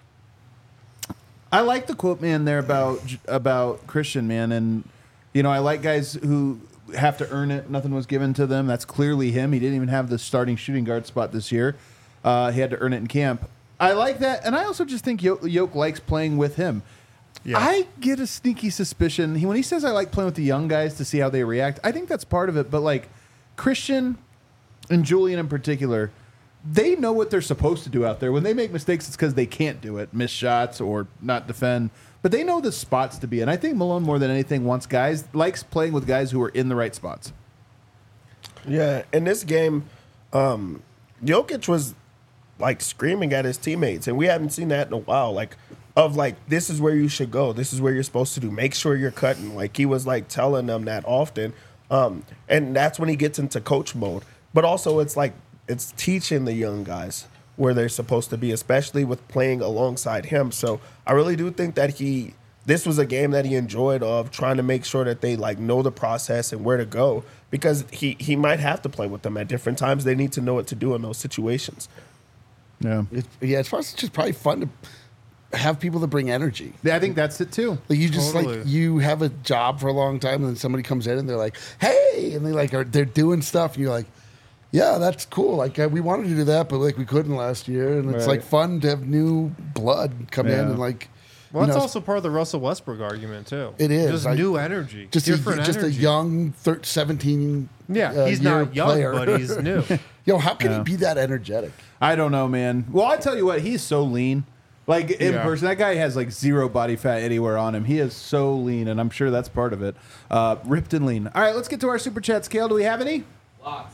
I like the quote, man, there about about Christian, man. And, you know, I like guys who have to earn it. Nothing was given to them. That's clearly him. He didn't even have the starting shooting guard spot this year. Uh, he had to earn it in camp. I like that. And I also just think Yoke, Yoke likes playing with him. Yeah. I get a sneaky suspicion. He, when he says I like playing with the young guys to see how they react, I think that's part of it. But, like, Christian and Julian in particular, they know what they're supposed to do out there. When they make mistakes, it's because they can't do it, miss shots or not defend. But they know the spots to be in. I think Malone, more than anything, wants guys, likes playing with guys who are in the right spots. Yeah, in this game, um, Jokic was, like, screaming at his teammates, and we haven't seen that in a while. Like, of, like, this is where you should go. This is where you're supposed to do. Make sure you're cutting. Like, he was, like, telling them that often. Um, and that's when he gets into coach mode. But also, it's like, it's teaching the young guys where they're supposed to be, especially with playing alongside him. So I really do think that he, this was a game that he enjoyed of trying to make sure that they like know the process and where to go, because he, he might have to play with them at different times. They need to know what to do in those situations. Yeah. It, yeah, as far as it's just probably fun to have people that bring energy. Yeah, I think that's it too. Like you just Totally. like you have a job for a long time, and then somebody comes in and they're like, "Hey," and they like are they're doing stuff, and you're like, "Yeah, that's cool." Like uh, we wanted to do that, but like we couldn't last year, and it's Right. like fun to have new blood come in Yeah. and like. Well, you that's know, also part of the Russell Westbrook argument too. It is. just I- new energy, just a, different just energy. a young thir- seventeen. yeah, uh, he's year not young, player. but he's new. Yo, how can Yeah. he be that energetic? I don't know, man. Well, I tell you what, he's so lean. Like in Yeah. person, that guy has like zero body fat anywhere on him. He is so lean, and I'm sure that's part of it. Uh, ripped and lean. All right, let's get to our super chat scale. Do we have any? Lots.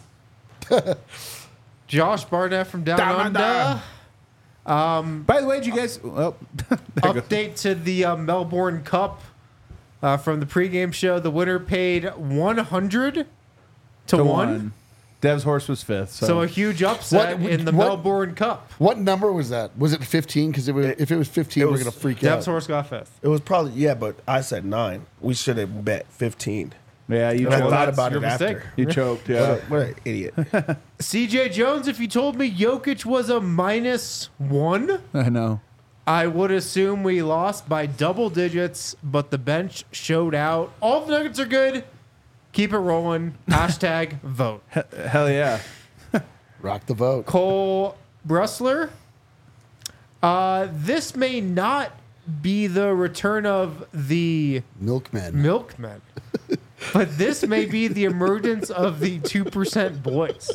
Josh Barnett from Down, Down Under. Under. By the way, did you guys? Well, there goes. Update to the uh, Melbourne Cup uh, from the pregame show. The winner paid one hundred to, To one. one. Dev's horse was fifth. So, So a huge upset What- in the what- Melbourne Cup. What number was that? Was it fifteen? Because if it was fifteen, it we're was- gonna freak Dev's out. horse got fifth. It was probably, yeah, but I said nine. We should have bet fifteen. yeah, you And I choked. thought that's about your it mistake. after. You choked. What, Yeah. a, what an idiot. C J Jones, if you told me Jokic was a minus one, I know. I would assume we lost by double digits, but the bench showed out. All the Nuggets are good. Keep it rolling. Hashtag vote. Hell yeah. Rock the vote. Cole Bressler. Uh, this may not be the return of the Milkman. milkmen, but this may be the emergence of the two percent boys.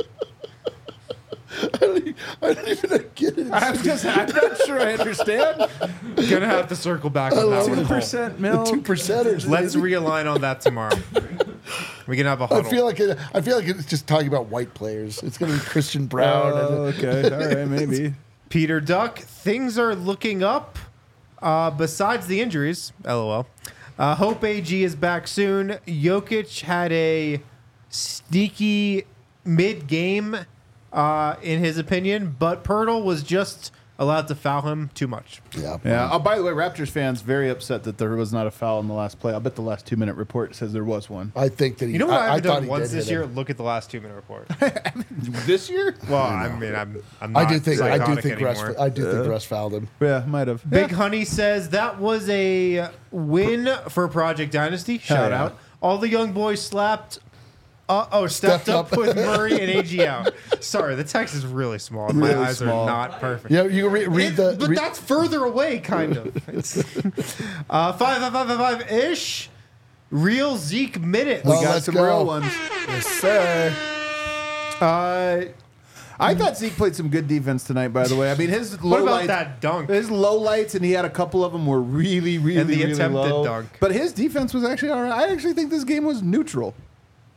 I don't even get it. I was just. I'm not sure I understand. Gonna have to circle back on that love one. Two Cole. percent milk. Two percenters. Let's realign on that tomorrow. We can have a I huddle. feel like it, I feel like it's just talking about white players. It's gonna be Christian Brown. Oh, and, okay. All right. Maybe. Peter Duck, things are looking up. Uh, besides the injuries, lol. Uh, Hope A G is back soon. Jokic had a sneaky mid-game, uh, in his opinion, but Pirtle was just allowed to foul him too much. yeah. Yeah. Oh, by the way, Raptors fans very upset that there was not a foul in the last play. I'll bet the last two minute report says there was one. I think that he. You know what I, I, haven't thought done he once did this hit year? him. Look at the last two-minute report. This year? Well, I mean, I'm, I'm not I do think. I do psychotic think Russ. anymore. I do think Russ fouled him. Yeah, might have. Big Honey says that was a win for Project Dynasty. Shout yeah. out. All the young boys slapped. Uh, oh, stepped, Stepped up, up. with Murray and A G out. Sorry, the text is really small. and My Really eyes small. are not perfect. Yeah, you read, read It- the. but read- that's further away, kind of. It's, uh, five, five, five, five, five ish. Real Zeke minutes. We Oh, got let's some go. real ones. Yes, sir. Uh, I thought Zeke played some good defense tonight. By the way, I mean his what low about lights, that dunk? his low lights, and he had a couple of them were really, really, And the really attempted low. dunk. But his defense was actually all right. I actually think this game was neutral.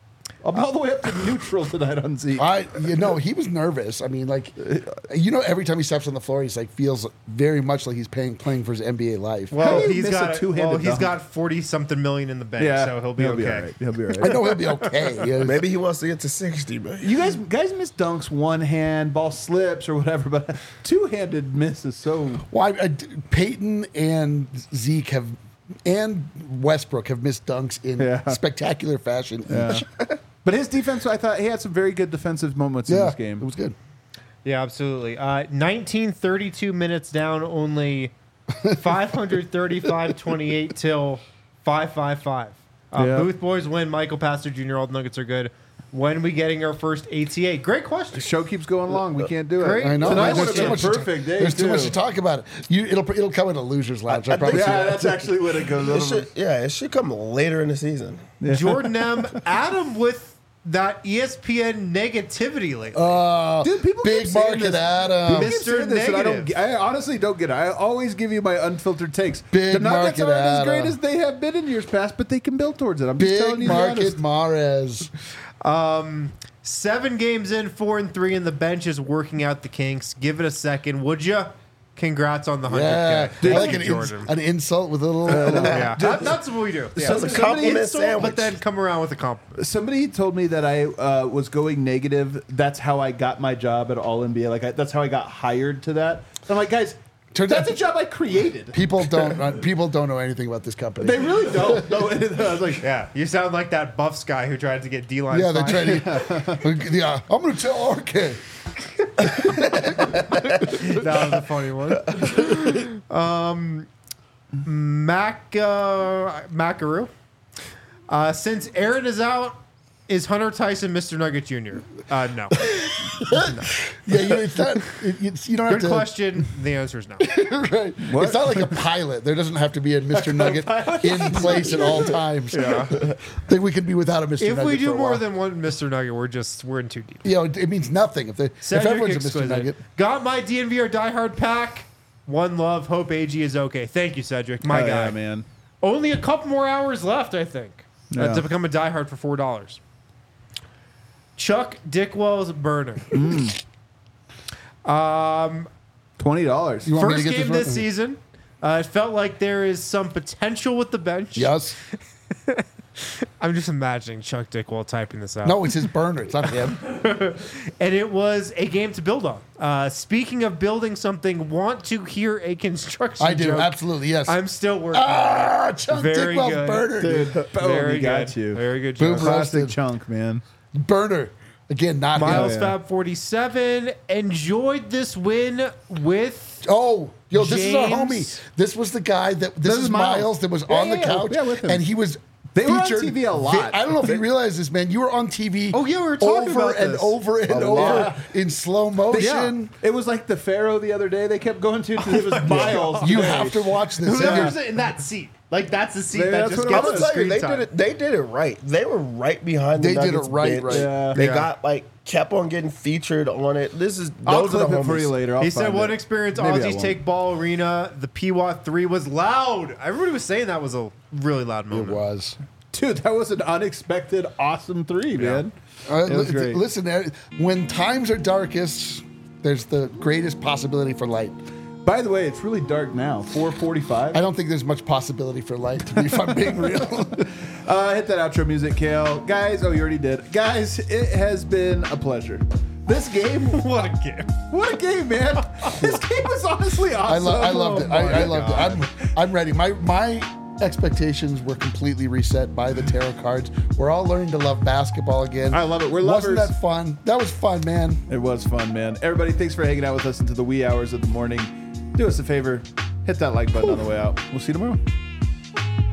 I'm all the way up to neutral tonight on Zeke. I, you know, he was nervous. I mean, like, you know, every time he steps on the floor, he's like feels very much like he's playing playing for his N B A life. How Well, do you he's miss a got two-handed well, he's dunk? got forty something million in the bank, so he'll be okay. all right. He'll be all right. I know he'll be okay. Yeah. Maybe he wants to get to sixty, but You guys, guys miss dunks one hand, ball slips or whatever, but two-handed miss is so. Well, I, I, Peyton and Zeke have, and Westbrook have missed dunks in Yeah. spectacular fashion each. But his defense, I thought he had some very good defensive moments in Yeah, this game. it was good. Yeah, absolutely. Uh, nineteen thirty-two minutes down, only five thirty-five twenty-eight till five five five. Uh, Yeah. Booth boys win. Michael Pastor Junior All the Nuggets are good. When we getting our first A T A? Great question. The show keeps going long. We can't do it. Great. I know. Tonight There's would too have much been a to- perfect day. There's too too. much to talk about it. You, it'll it'll come in a loser's lounge. I, promise Yeah, you. that's actually what it goes. it over. should, yeah, it should come later in the season. Jordan M. Adam with that E S P N negativity lately. Uh, Dude, people keep big saying market this. Adam. People keep Mister saying this, and I don't. Negative. I honestly don't get it. I always give you my unfiltered takes. Big the Nuggets market, aren't as great Adam. as they have been in years past, but they can build towards it. I'm just telling Big you the honest. market Mares. Seven games in, four and three, and the bench is working out the kinks. Give it a second, would you? Congrats on the hundred Yeah, K. I like an, ins- an insult with a little. a little- Yeah, that, that's what we do. Yeah. So it's a compliment Insult, sandwich. but then come around with a compliment. Somebody told me that I uh, was going negative. That's how I got my job at All N B A. Like I, that's how I got hired to that. I'm like, guys, Turns that's out- a job I created. People don't. Uh, people don't know anything about this company. They really don't. No, I was like, Yeah, you sound like that Buffs guy who tried to get D-line. yeah, they fined. try to. Yeah, I'm going to tell R K. That was a funny one. Um, Mac uh, Macaru. Uh, since Aaron is out, is Hunter Tyson Mister Nugget Junior? Uh, no. Yeah, you, it's not. It, it's, you don't have Good to. question. The answer is no. Right. It's not like a pilot. There doesn't have to be a Mister Nugget in place at all times. Yeah. Think we could be without a Mister If Nugget we for do a more while. than one Mister Nugget, we're just we're in too deep. You know, it, it means nothing if, they, if Cedric everyone's a Mister Exquisite. Nugget. Got my D N V R diehard pack. One love. Hope A G is okay. Thank you, Cedric. My oh, guy. yeah, man. Only a couple more hours left, I think, uh, Yeah. to become a diehard for four dollars. Chuck Dickwell's burner. Twenty dollars. You want me First to get game this this one? season. Uh, it felt like there is some potential with the bench. Yes. I'm just imagining Chuck Dickwell typing this out. No, it's his burner. It's not him. And it was a game to build on. Uh, speaking of building something, want to hear a construction I do. joke? Absolutely. Yes. I'm still working on ah, Chuck Very Dickwell's good. burner. Dude, boom, Very he got good. you. Very good Boom, joke. bro. Plastic Roasted. chunk, man. Burner. Again, not Miles him. yeah. Fab forty-seven enjoyed this win with Oh, yo, this is our James. homie. This was the guy that this, This is is Miles. Miles. that was Yeah, on the yeah, couch, yeah, with him. and he was. They were on featured T V a lot. vi- I don't know if you realize this, man. You were on T V. Oh, yeah, we were talking over about and this. over and A over lot. in slow motion. It was like the Pharaoh the other day. They kept going to. It was Miles. You today. have to watch this. whoever's in that seat. Like that's the seat Maybe that that's just what it I'm gets gonna the tell you, screen they time. did it. They did it right. They were right behind. The They did it Nuggets right, bench. right. Yeah. They Yeah. got like kept on getting featured on it. This is I'll those are clip the it for homies. you later. I'll He said find one it. experience Maybe I Aussies won't. take ball arena. The P W A T three was loud. Everybody was saying that was a really loud It moment. was. Dude, that was an unexpected, awesome three, man. Uh, It was li- great. Listen, uh, when times are darkest, there's the greatest possibility for light. By the way, it's really dark now. four forty-five. I don't think there's much possibility for light, to be, if I'm being real. Uh, hit that outro music, Kale. Guys, oh, you already did. Guys, it has been a pleasure. This game, What a game. what a game, man. This game was honestly awesome. I, lo- I loved it. Oh, my I, I loved God. it. I'm, I'm ready. My my expectations were completely reset by the tarot cards. We're all learning to love basketball again. I love it. We're Wasn't lovers. that fun? That was fun, man. It was fun, man. Everybody, thanks for hanging out with us into the wee hours of the morning. Do us a favor, hit that like button on the way out. We'll see you tomorrow.